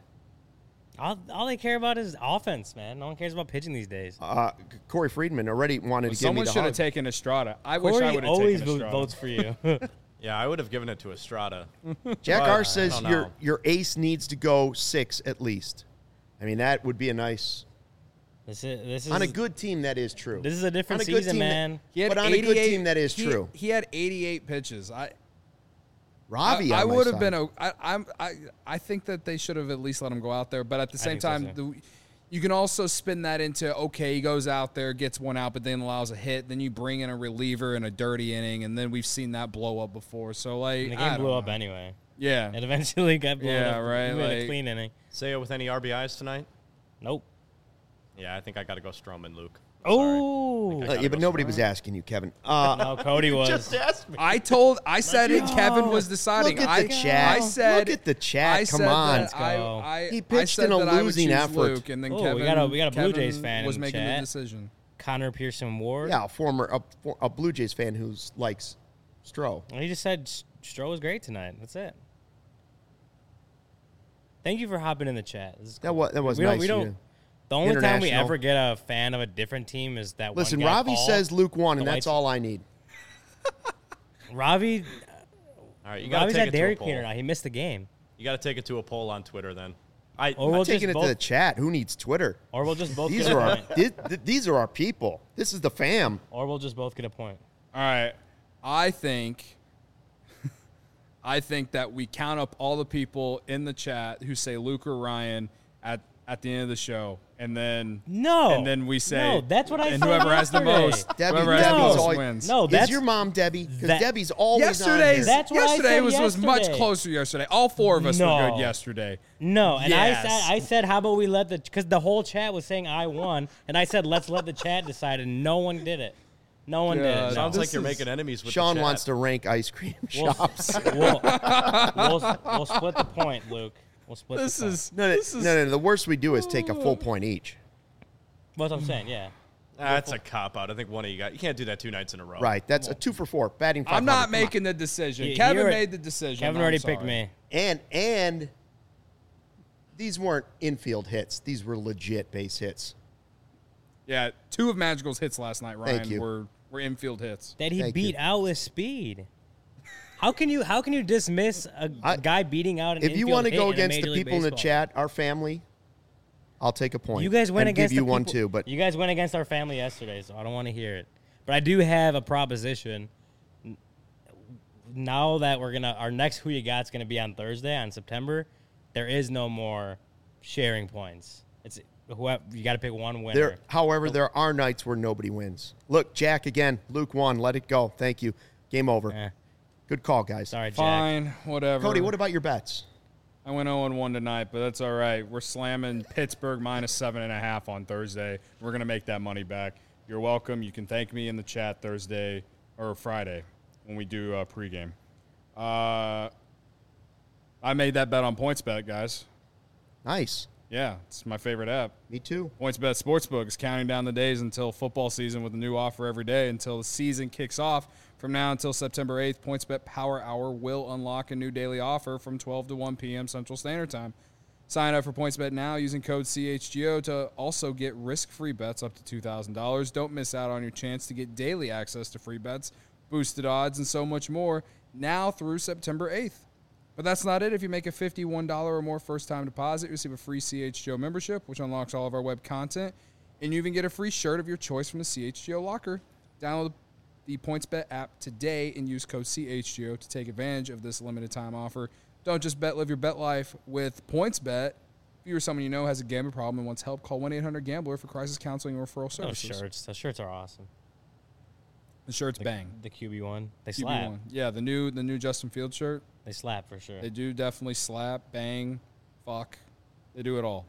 Speaker 2: All they care about is offense, man. No one cares about pitching these days.
Speaker 1: Corey Friedman already wanted to give me
Speaker 3: Someone
Speaker 1: the
Speaker 3: should have
Speaker 1: hug.
Speaker 3: taken Estrada. I wish
Speaker 2: Corey
Speaker 3: I would have
Speaker 2: always
Speaker 3: taken Estrada.
Speaker 2: votes for you.
Speaker 4: Yeah, I would have given it to Estrada.
Speaker 1: Jack
Speaker 4: But
Speaker 1: Carr
Speaker 4: I
Speaker 1: says
Speaker 4: don't know.
Speaker 1: your ace needs to go 6 at least. I mean, that would be a nice.
Speaker 2: this is
Speaker 1: On a good team, that is true.
Speaker 2: This is a different
Speaker 1: On a good
Speaker 2: season,
Speaker 1: team that-
Speaker 2: man.
Speaker 3: He had
Speaker 1: But on a good
Speaker 3: 88
Speaker 1: team, that is true.
Speaker 3: He had 88 pitches.
Speaker 1: Ravi,
Speaker 3: I
Speaker 1: on my
Speaker 3: would have
Speaker 1: side.
Speaker 3: been. I think that they should have at least let him go out there. But at the same
Speaker 2: think so,
Speaker 3: time,
Speaker 2: too.
Speaker 3: you can also spin that into okay, he goes out there, gets one out, but then allows a hit. Then you bring in a reliever in a dirty inning, and then we've seen that blow up before. So like,
Speaker 2: And the
Speaker 3: I
Speaker 2: game
Speaker 3: don't
Speaker 2: blew up
Speaker 3: know.
Speaker 2: anyway.
Speaker 3: Yeah,
Speaker 2: It eventually got blown
Speaker 3: Yeah,
Speaker 2: up.
Speaker 3: right,
Speaker 2: We had a
Speaker 3: like-
Speaker 2: clean inning.
Speaker 4: Seo with any RBIs tonight?
Speaker 2: Nope.
Speaker 4: Yeah, I think I got to go Stroman, Luke.
Speaker 2: Oh.
Speaker 4: Sorry.
Speaker 1: Yeah, but nobody was asking you, Kevin.
Speaker 2: No, Cody was.
Speaker 4: Just ask me.
Speaker 3: I said it. Kevin was deciding.
Speaker 1: Look at the chat.
Speaker 3: I said.
Speaker 1: Look at the chat.
Speaker 3: I
Speaker 1: Come
Speaker 3: said
Speaker 1: on.
Speaker 3: that
Speaker 2: Let's go.
Speaker 3: I
Speaker 1: He pitched
Speaker 3: I said
Speaker 1: in a
Speaker 3: that I would
Speaker 1: losing
Speaker 3: choose
Speaker 1: effort.
Speaker 3: Luke, and then
Speaker 2: Oh,
Speaker 3: Kevin,
Speaker 2: we got a Blue
Speaker 3: Kevin
Speaker 2: Jays fan
Speaker 3: was
Speaker 2: in the
Speaker 3: making the
Speaker 2: chat.
Speaker 3: decision.
Speaker 2: Connor Pearson Ward.
Speaker 1: Yeah, a Blue Jays fan who likes Stroh.
Speaker 2: He just said Stroh was great tonight. That's it. Thank you for hopping in the chat. This is
Speaker 1: That
Speaker 2: cool.
Speaker 1: was
Speaker 2: we
Speaker 1: nice.
Speaker 2: Don't, we
Speaker 1: of
Speaker 2: don't.
Speaker 1: you.
Speaker 2: The only time we
Speaker 1: International.
Speaker 2: ever get a fan of a different team is that
Speaker 1: Listen,
Speaker 2: one guy,
Speaker 1: Ravi
Speaker 2: Paul.
Speaker 1: says Luke won, and
Speaker 2: The
Speaker 1: that's
Speaker 2: White-
Speaker 1: all I need.
Speaker 2: Ravi.
Speaker 4: All right, you got to
Speaker 2: Ravi's
Speaker 4: take
Speaker 2: at
Speaker 4: it to
Speaker 2: Dairy
Speaker 4: a poll.
Speaker 2: Queen now. He missed the game.
Speaker 4: You got to take it to a poll on Twitter then.
Speaker 2: Or
Speaker 1: I'm
Speaker 2: we'll just
Speaker 1: taking it
Speaker 2: both.
Speaker 1: to the chat. Who needs Twitter?
Speaker 2: Or we'll just both
Speaker 1: These
Speaker 2: get
Speaker 1: are
Speaker 2: a
Speaker 1: our
Speaker 2: point.
Speaker 1: these are our people. This is the fam.
Speaker 2: Or we'll just both get a point.
Speaker 3: All right. I think that we count up all the people in the chat who say Luke or Ryan at the end of the show, and then we say
Speaker 2: no. That's what I
Speaker 3: and
Speaker 2: said
Speaker 3: whoever has the
Speaker 2: yesterday.
Speaker 3: most,
Speaker 1: Debbie,
Speaker 3: whoever has the
Speaker 1: Debbie's
Speaker 3: most
Speaker 1: always-
Speaker 3: wins.
Speaker 2: No,
Speaker 1: Is
Speaker 2: that's
Speaker 1: your mom Debbie? Because
Speaker 2: that-
Speaker 1: Debbie's always on
Speaker 3: Yesterday's
Speaker 1: here.
Speaker 2: That's what I
Speaker 3: yesterday
Speaker 2: said
Speaker 3: was much
Speaker 2: yesterday.
Speaker 3: closer yesterday. All four of us were
Speaker 2: No.
Speaker 3: good yesterday.
Speaker 2: No, and
Speaker 3: Yes.
Speaker 2: I said, how about we let because the whole chat was saying I won, and I said, let's let the chat decide, and no one did it. No one did it. No.
Speaker 4: Sounds like
Speaker 3: This
Speaker 4: you're
Speaker 3: is-
Speaker 4: making enemies with
Speaker 1: Sean
Speaker 4: the chat.
Speaker 1: wants to rank ice cream
Speaker 2: We'll,
Speaker 1: shops.
Speaker 2: we'll split the point, Luke. We'll split
Speaker 3: This
Speaker 2: the point.
Speaker 3: is
Speaker 1: No. The worst we do is take a full point each.
Speaker 2: That's what I'm saying, yeah.
Speaker 4: That's a cop out. I think one of you got. You can't do that 2 nights in a row.
Speaker 1: Right. That's a 2 for 4. Batting 500.
Speaker 3: I'm not
Speaker 1: Come on.
Speaker 3: making the decision.
Speaker 2: You-
Speaker 3: Kevin
Speaker 2: you're-
Speaker 3: made the decision.
Speaker 2: Kevin
Speaker 3: I'm
Speaker 2: already
Speaker 3: sorry.
Speaker 2: picked me.
Speaker 1: And these weren't infield hits. These were legit base hits.
Speaker 3: Yeah, 2 of Magical's hits last night, Ryan,
Speaker 1: Thank you.
Speaker 3: were infield hits.
Speaker 2: That he
Speaker 1: Thank
Speaker 2: beat
Speaker 1: you.
Speaker 2: out with speed. How can you dismiss a guy beating out an
Speaker 1: If you
Speaker 2: infield
Speaker 1: want to
Speaker 2: hit
Speaker 1: go
Speaker 2: in a
Speaker 1: against
Speaker 2: Major
Speaker 1: the
Speaker 2: League
Speaker 1: people in the
Speaker 2: Baseball?
Speaker 1: chat, our family, I'll take a point.
Speaker 2: You guys went
Speaker 1: and
Speaker 2: against
Speaker 1: give you
Speaker 2: the
Speaker 1: one
Speaker 2: people-
Speaker 1: too, but
Speaker 2: you guys went against our family yesterday, so I don't want to hear it. But I do have a proposition. Now that our next Who You Got's gonna be on Thursday on September, there is no more sharing points. It's whoever you got to pick one winner.
Speaker 1: however, there are nights where nobody wins. Look, Jack again. Luke won. Let it go. Thank you. Game over.
Speaker 2: Eh,
Speaker 1: Good call, guys.
Speaker 2: sorry, Jack.
Speaker 3: Fine, whatever.
Speaker 1: Cody, what about your bets?
Speaker 3: I went 0-1 tonight, but that's all right. We're slamming Pittsburgh minus 7.5 on Thursday. We're going to make that money back. You're welcome. You can thank me in the chat Thursday or Friday when we do pregame. I made that bet on PointsBet, guys.
Speaker 1: Nice.
Speaker 3: Yeah, it's my favorite app.
Speaker 1: Me too.
Speaker 3: PointsBet Sportsbook is counting down the days until football season with a new offer every day until the season kicks off. From now until September 8th, PointsBet Power Hour will unlock a new daily offer from 12 to 1 p.m. Central Standard Time. Sign up for PointsBet now using code CHGO to also get risk-free bets up to $2,000. Don't miss out on your chance to get daily access to free bets, boosted odds, and so much more now through September 8th. But that's not it. If you make a $51 or more first-time deposit, you receive a free CHGO membership, which unlocks all of our web content, and you even get a free shirt of your choice from the CHGO locker. Download the PointsBet app today and use code CHGO to take advantage of this limited-time offer. Don't just bet, live your bet life with PointsBet. If you or someone you know has a gambling problem and wants help, call 1-800-GAMBLER for crisis counseling or referral
Speaker 2: Those
Speaker 3: services.
Speaker 2: shirts. Those shirts are awesome.
Speaker 3: The shirts bang.
Speaker 2: The QB one. They
Speaker 3: QB
Speaker 2: slap.
Speaker 3: one. Yeah, the new Justin Fields shirt.
Speaker 2: They slap for sure.
Speaker 3: They do definitely slap, bang, fuck. They do it all.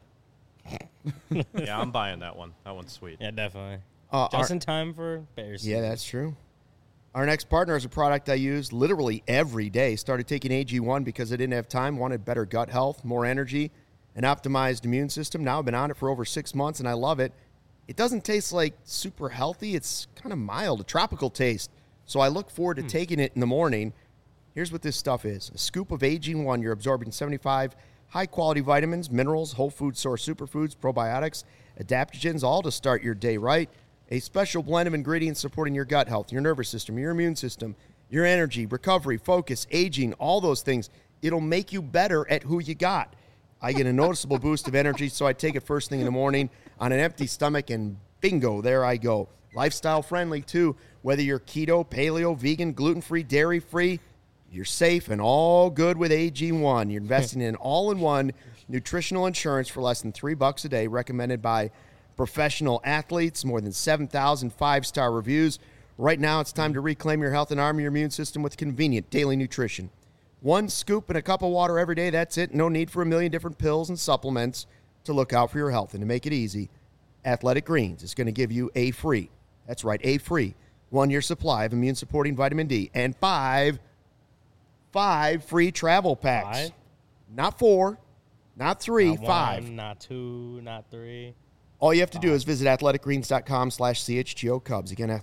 Speaker 4: Yeah, I'm buying that one. That one's sweet.
Speaker 2: Yeah, definitely.
Speaker 1: Our-
Speaker 2: Just in time for Bears.
Speaker 1: Yeah,
Speaker 2: season.
Speaker 1: that's true. Our next partner is a product I use literally every day. Started taking AG1 because I didn't have time, wanted better gut health, more energy, an optimized immune system. Now I've been on it for over 6 months, and I love it. It doesn't taste like super healthy. It's kind of mild, a tropical taste. So I look forward to taking it in the morning. Here's what this stuff is. A scoop of AG1, you're absorbing 75 high-quality vitamins, minerals, whole food source superfoods, probiotics, adaptogens, all to start your day right. A special blend of ingredients supporting your gut health, your nervous system, your immune system, your energy, recovery, focus, aging, all those things. It'll make you better at who you got. I get a noticeable boost of energy, so I take it first thing in the morning on an empty stomach, and bingo, there I go. Lifestyle friendly, too. Whether you're keto, paleo, vegan, gluten-free, dairy-free, you're safe and all good with AG1. You're investing in all-in-one nutritional insurance for less than $3 a day, recommended by professional athletes, more than 7,000 five-star reviews. Right now, it's time to reclaim your health and arm your immune system with convenient daily nutrition. One scoop and a cup of water every day, that's it. No need for a million different pills and supplements to look out for your health. And to make it easy, Athletic Greens is going to give you a free, that's right, a free 1-year supply of immune-supporting vitamin D and five free travel packs.
Speaker 2: 5?
Speaker 1: Not 4, not 3,
Speaker 2: Not
Speaker 1: 5.
Speaker 2: 1, not 2, not 3.
Speaker 1: All you have to do is visit athleticgreens.com/CHGO Cubs. Again,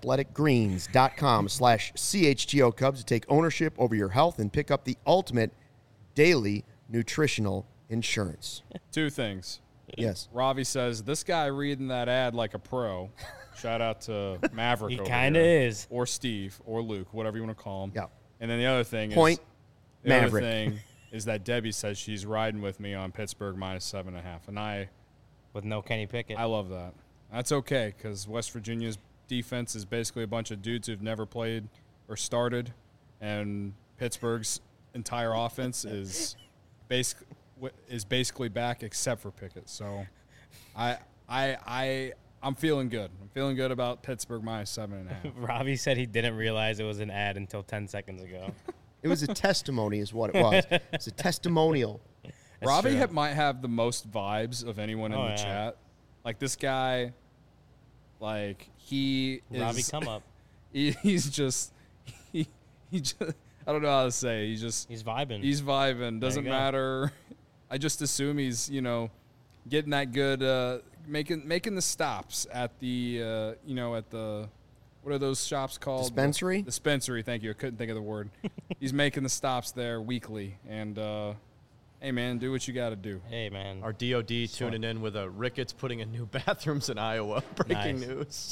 Speaker 1: athleticgreens.com/CHGO Cubs to take ownership over your health and pick up the ultimate daily nutritional insurance.
Speaker 3: 2 things.
Speaker 1: Yes.
Speaker 3: Ravi says, this guy reading that ad like a pro. Shout out to Maverick
Speaker 2: He
Speaker 3: over
Speaker 2: kind of
Speaker 3: here.
Speaker 2: is.
Speaker 3: Or Steve, or Luke, whatever you want to call him.
Speaker 1: Yeah.
Speaker 3: And then the other thing
Speaker 1: Point,
Speaker 3: is, the
Speaker 1: Maverick.
Speaker 3: other thing is that Debbie says she's riding with me on Pittsburgh minus 7.5. And I
Speaker 2: With no Kenny Pickett.
Speaker 3: love that. That's okay, because West Virginia's defense is basically a bunch of dudes who've never played or started, and Pittsburgh's entire offense is basically back except for Pickett. So I'm feeling good. I'm feeling good about Pittsburgh minus 7.5.
Speaker 2: Robbie said he didn't realize it was an ad until 10 seconds ago.
Speaker 1: It was a testimony is what it was. It's a testimonial.
Speaker 3: Robbie
Speaker 2: true.
Speaker 3: might have the most vibes of anyone in the chat. Like, this guy, like, he is...
Speaker 2: Robbie, come up.
Speaker 3: He's just... He just... I don't know how to say. He's
Speaker 2: vibing.
Speaker 3: He's vibing. Doesn't matter. I just assume he's, getting that good... making the stops at the, at the... What are those shops called?
Speaker 1: Dispensary?
Speaker 3: Dispensary, thank you. I couldn't think of the word. He's making the stops there weekly. And, hey, man, do what you got to do.
Speaker 2: Hey, man.
Speaker 4: Our DOD tuning in with a Ricketts putting in new bathrooms in Iowa. Breaking news.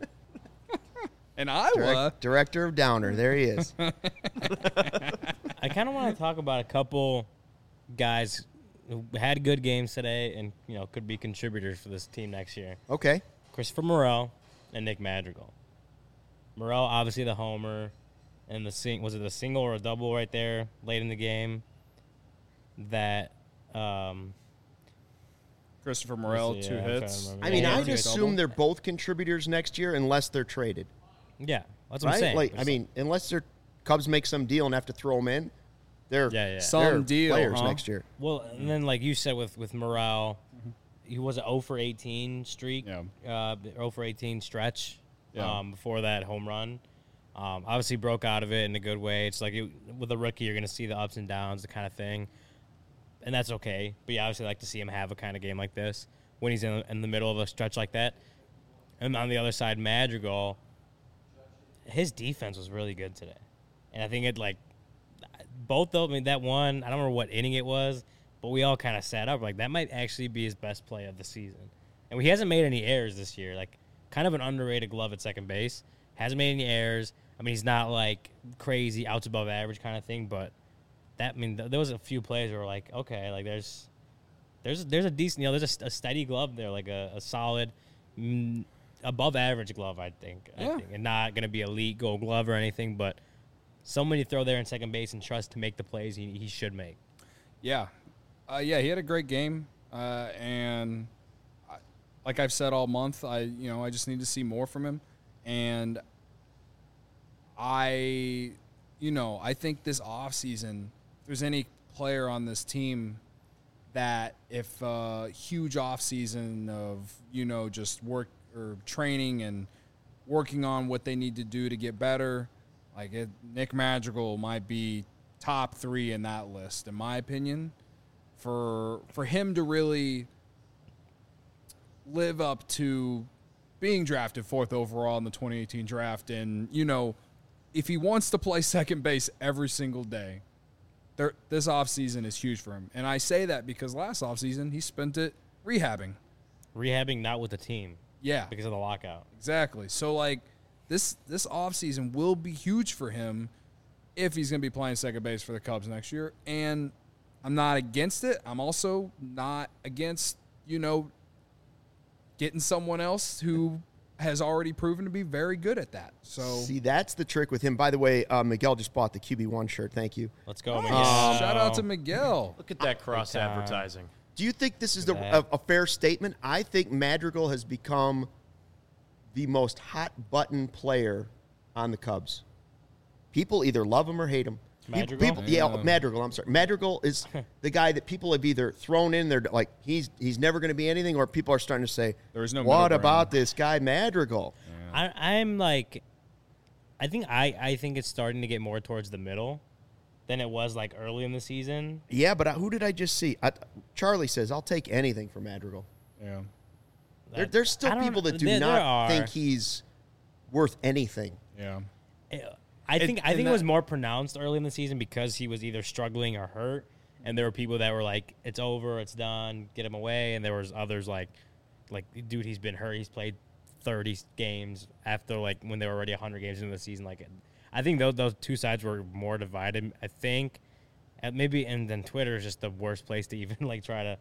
Speaker 3: In Iowa?
Speaker 1: Director of Downer. There he is.
Speaker 2: I kind of want to talk about a couple guys who had good games today and, could be contributors for this team next year.
Speaker 1: Okay.
Speaker 2: Christopher Morel and Nick Madrigal. Morel, obviously the homer, and was it a single or a double right there late in the game that
Speaker 3: Christopher Morel, 2 hits.
Speaker 1: I mean, I'd assume they're both contributors next year unless they're traded.
Speaker 2: Yeah, that's what
Speaker 1: right?
Speaker 2: I'm saying.
Speaker 1: Like, I mean, unless their Cubs make some deal and have to throw them in, they're
Speaker 3: some deal
Speaker 1: players next year.
Speaker 2: Well, and then like you said with Morel, he was an 0 for 18 streak, 0 for 18 stretch before that home run. Obviously broke out of it in a good way. It's like with a rookie, you're going to see the ups and downs, the kind of thing, and that's okay. But you obviously like to see him have a kind of game like this when he's in the middle of a stretch like that. And on the other side, Madrigal, his defense was really good today. And I think both of them, I mean, that one, I don't remember what inning it was, but we all kind of sat up. Like, that might actually be his best play of the season. And he hasn't made any errors this year. Like, kind of an underrated glove at second base. Hasn't made any errors. I mean, he's not, like, crazy, outs above average kind of thing, but there was a few plays where we're like, okay, like, there's a decent, there's a steady glove there, like a solid, above average glove, I think, and not going to be elite Gold Glove or anything, but someone you throw there in second base and trust to make the plays he should make.
Speaker 3: Yeah, he had a great game, and like I've said all month, I just need to see more from him, and I think this offseason, if there's any player on this team that if a huge offseason of just work or training and working on what they need to do to get better, Nick Madrigal might be top 3 in that list, in my opinion. For him to really live up to being drafted 4th overall in the 2018 draft, and if he wants to play second base every single day, this offseason is huge for him. And I say that because last offseason he spent it rehabbing.
Speaker 2: Rehabbing, not with the team.
Speaker 3: Yeah.
Speaker 2: Because of the lockout.
Speaker 3: Exactly. So, this offseason will be huge for him if he's going to be playing second base for the Cubs next year. And I'm not against it. I'm also not against, getting someone else who has already proven to be very good at that. So
Speaker 1: see, that's the trick with him. By the way, Miguel just bought the QB1 shirt. Thank you.
Speaker 2: Let's go,
Speaker 3: nice.
Speaker 2: Miguel.
Speaker 3: Shout out to Miguel.
Speaker 4: Look at that cross advertising.
Speaker 1: Do you think this is a fair statement? I think Madrigal has become the most hot-button player on the Cubs. People either love him or hate him.
Speaker 2: Madrigal?
Speaker 1: Madrigal. I'm sorry. Madrigal is the guy that people have either thrown in there like he's never going to be anything, or people are starting to say,
Speaker 3: "There's no."
Speaker 1: What about this guy Madrigal?
Speaker 2: Yeah. I'm like, I think it's starting to get more towards the middle than it was like early in the season.
Speaker 1: Yeah, but who did I just see? Charlie says I'll take anything for Madrigal.
Speaker 3: Yeah.
Speaker 1: There's still people that do not think he's worth anything.
Speaker 3: Yeah.
Speaker 2: I think it was more pronounced early in the season because he was either struggling or hurt, and there were people that were like, "It's over, it's done, get him away," and there was others like, dude, he's been hurt, he's played 30 games after when they were already 100 games into the season. I think those two sides were more divided. I think, and then Twitter is just the worst place to even try to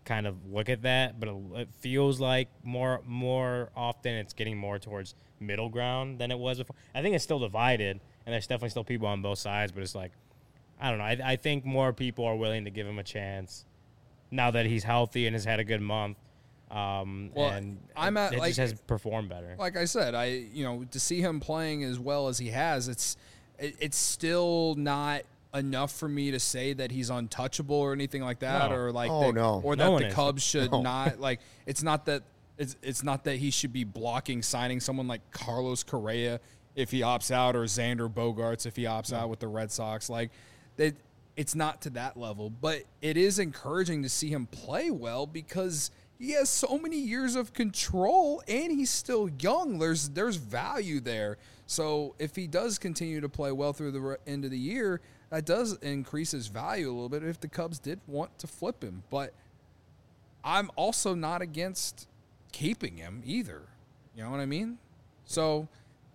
Speaker 2: kind of look at that, but it feels like more often it's getting more towards middle ground than it was before. I think it's still divided, and there's definitely still people on both sides, but it's like, I don't know. I think more people are willing to give him a chance now that he's healthy and has had a good month. And it just has performed better.
Speaker 3: Like I said, to see him playing as well as he has, it's still not enough for me to say that he's untouchable or anything like that, or like the Cubs should not like. It's not that he should be blocking signing someone like Carlos Correa if he opts out, or Xander Bogaerts if he opts out with the Red Sox. Like, it's not to that level, but it is encouraging to see him play well because he has so many years of control and he's still young. There's value there. So if he does continue to play well through the end of the year, that does increase his value a little bit if the Cubs did want to flip him. But I'm also not against keeping him either. You know what I mean? So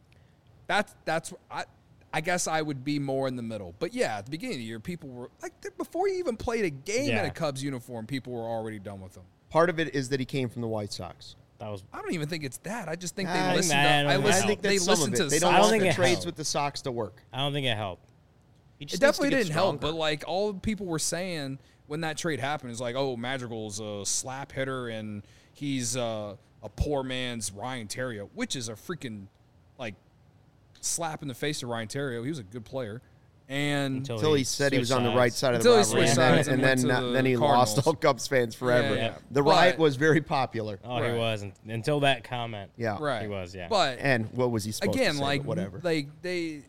Speaker 3: that's I guess I would be more in the middle. But yeah, at the beginning of the year, people were like, before he even played a game in a Cubs uniform, people were already done with him.
Speaker 1: Part of it is that he came from the White Sox.
Speaker 3: I don't even think it's that. I just think
Speaker 1: I
Speaker 3: they listened.
Speaker 1: They don't want the trades with the Sox to work.
Speaker 2: I don't think it helped.
Speaker 3: It definitely didn't help. But like all people were saying when that trade happened is like, oh, Madrigal's a slap hitter and he's a poor man's Ryan Theriot, which is a freaking like slap in the face to Ryan Theriot. He was a good player. And
Speaker 1: until he said he was on the right side of the rivalry, and then he lost all Cubs fans forever. Yeah. The riot was very popular.
Speaker 2: Oh, he was until that comment.
Speaker 1: Yeah,
Speaker 3: right.
Speaker 2: He was. Yeah,
Speaker 3: but
Speaker 1: and what was he supposed to say?
Speaker 3: Like
Speaker 1: whatever.
Speaker 3: Like they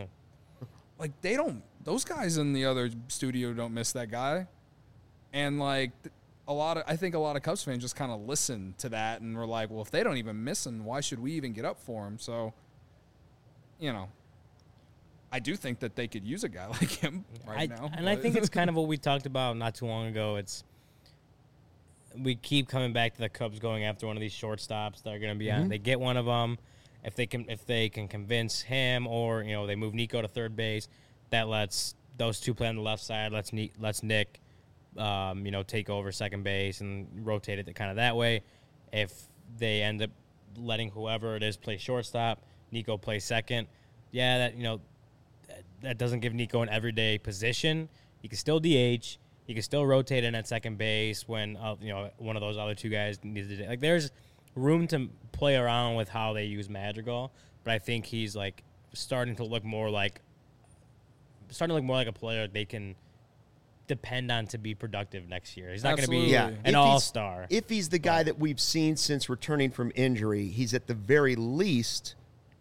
Speaker 3: don't. Those guys in the other studio don't miss that guy, and like I think a lot of Cubs fans just kind of listen to that and were like, well, if they don't even miss him, why should we even get up for him? So, I do think that they could use a guy like him now.
Speaker 2: And I think it's kind of what we talked about not too long ago. We keep coming back to the Cubs going after one of these shortstops that are going to be on. They get one of them. If they can convince him, or they move Nico to third base, that lets those two play on the left side. Lets Nick, take over second base and rotate it kind of that way. If they end up letting whoever it is play shortstop, Nico plays second. Yeah, that doesn't give Nico an everyday position. He can still DH. He can still rotate in at second base when one of those other two guys needs to. Like, there's room to play around with how they use Madrigal, but I think he's like starting to look more like a player they can depend on to be productive next year. He's not going to be an all-star.
Speaker 1: If he's the guy that we've seen since returning from injury, he's at the very least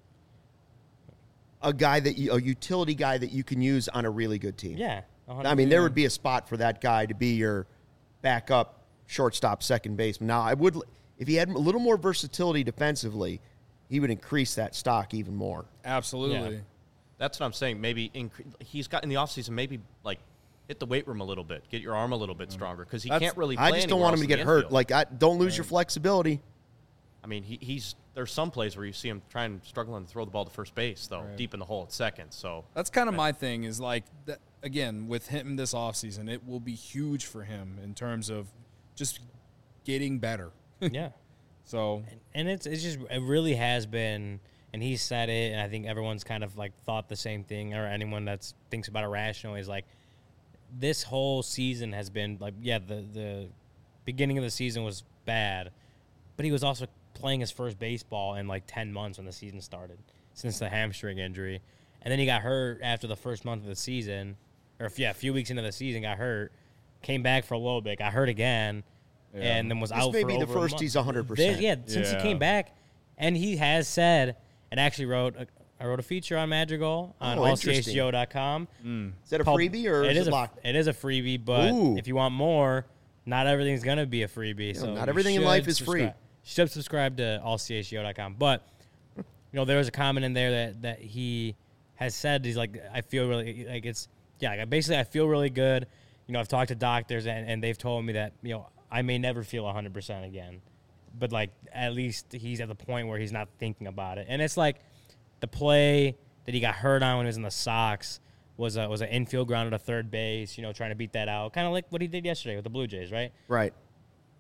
Speaker 1: a utility guy that you can use on a really good team.
Speaker 2: Yeah. 100%.
Speaker 1: I mean, there would be a spot for that guy to be your backup shortstop, second baseman. Now, if he had a little more versatility defensively, he would increase that stock even more.
Speaker 3: Absolutely.
Speaker 4: Yeah. That's what I'm saying. Maybe he's got in the offseason, maybe like hit the weight room a little bit, get your arm a little bit stronger, because he can't really play.
Speaker 1: I just don't want him to get hurt. Like, don't lose your flexibility.
Speaker 4: I mean, there's some plays where you see him struggling to throw the ball to first base, though, deep in the hole at second. So
Speaker 3: that's kind of my thing is like, again, with him this offseason, it will be huge for him in terms of just getting better.
Speaker 2: Yeah.
Speaker 3: So
Speaker 2: and it really has been, and he said it, and I think everyone's kind of like thought the same thing, or anyone that thinks about it rationally is like, this whole season has been like, the beginning of the season was bad, but he was also playing his first baseball in like 10 months when the season started since the hamstring injury. And then he got hurt after the first month of the season, or a few weeks into the season, got hurt, came back for a little bit, got hurt again, and then was out for over a month.
Speaker 1: This may be the first he's 100%.
Speaker 2: Since he came back, and he has said, and actually I wrote a feature on Madrigal on allchgo.com.
Speaker 1: Is that a freebie or is it locked?
Speaker 2: It is a freebie, but if you want more, not everything's going to be a freebie. So
Speaker 1: not everything in life is free.
Speaker 2: You should subscribe to allchgo.com. But, there was a comment in there that he has said, he's like, I feel really, like basically I feel really good. I've talked to doctors and they've told me that, I may never feel 100% again. But, like, at least he's at the point where he's not thinking about it. And it's like the play that he got hurt on when he was in the Sox was an infield ground at a third base, trying to beat that out. Kind of like what he did yesterday with the Blue Jays, right?
Speaker 1: Right.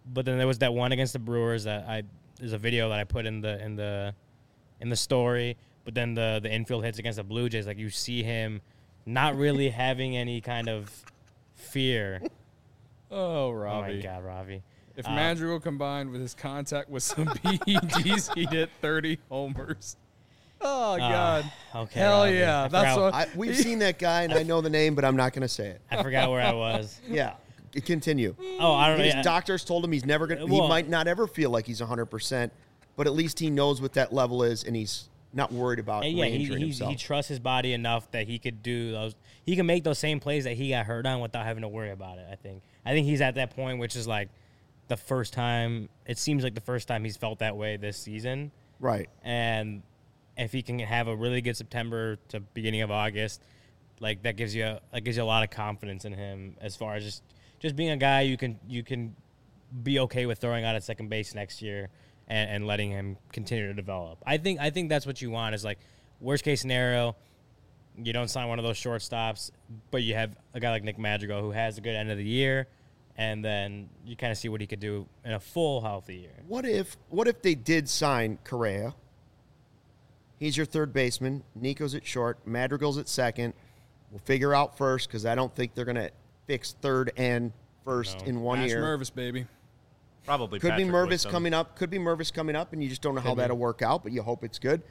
Speaker 2: But then there was that one against the Brewers there's a video that I put in the story. But then the infield hits against the Blue Jays, like you see him not really having any kind of fear.
Speaker 3: Oh, Robbie.
Speaker 2: Oh my God, Ravi.
Speaker 3: If Madrigal combined with his contact with some PEDs, he'd hit 30 homers. Oh, God.
Speaker 2: Okay.
Speaker 3: Hell
Speaker 2: Ravi.
Speaker 3: yeah. That's what.
Speaker 1: We've seen that guy, and I know the name, but I'm not going to say it.
Speaker 2: I forgot where I was.
Speaker 1: Yeah. Continue.
Speaker 2: Oh, I don't know.
Speaker 1: His doctors told him he's never going to, he might not ever feel like he's 100%, but at least he knows what that level is, and he's not worried about re-injuring himself.
Speaker 2: He trusts his body enough that he could do those. He can make those same plays that he got hurt on without having to worry about it, I think. I think he's at that point, which is like the first time, it seems like the first time he's felt that way this season.
Speaker 1: Right.
Speaker 2: And if he can have a really good September to beginning of August, like that gives you a lot of confidence in him as far as just being a guy you can be okay with throwing out at second base next year and letting him continue to develop. I think that's what you want is like worst case scenario, you don't sign one of those shortstops, but you have a guy like Nick Madrigal who has a good end of the year, and then you kind of see what he could do in a full healthy year.
Speaker 1: What if they did sign Correa? He's your third baseman. Nico's at short. Madrigal's at second. We'll figure out first because I don't think they're going to fix third and first in 1 year.
Speaker 3: Mervis, baby.
Speaker 4: Probably
Speaker 1: Could be
Speaker 4: Patrick
Speaker 1: Mervis
Speaker 4: Wisdom.
Speaker 1: coming up. Could be Mervis coming up, and you just don't know how that'll work out, but you hope it's good.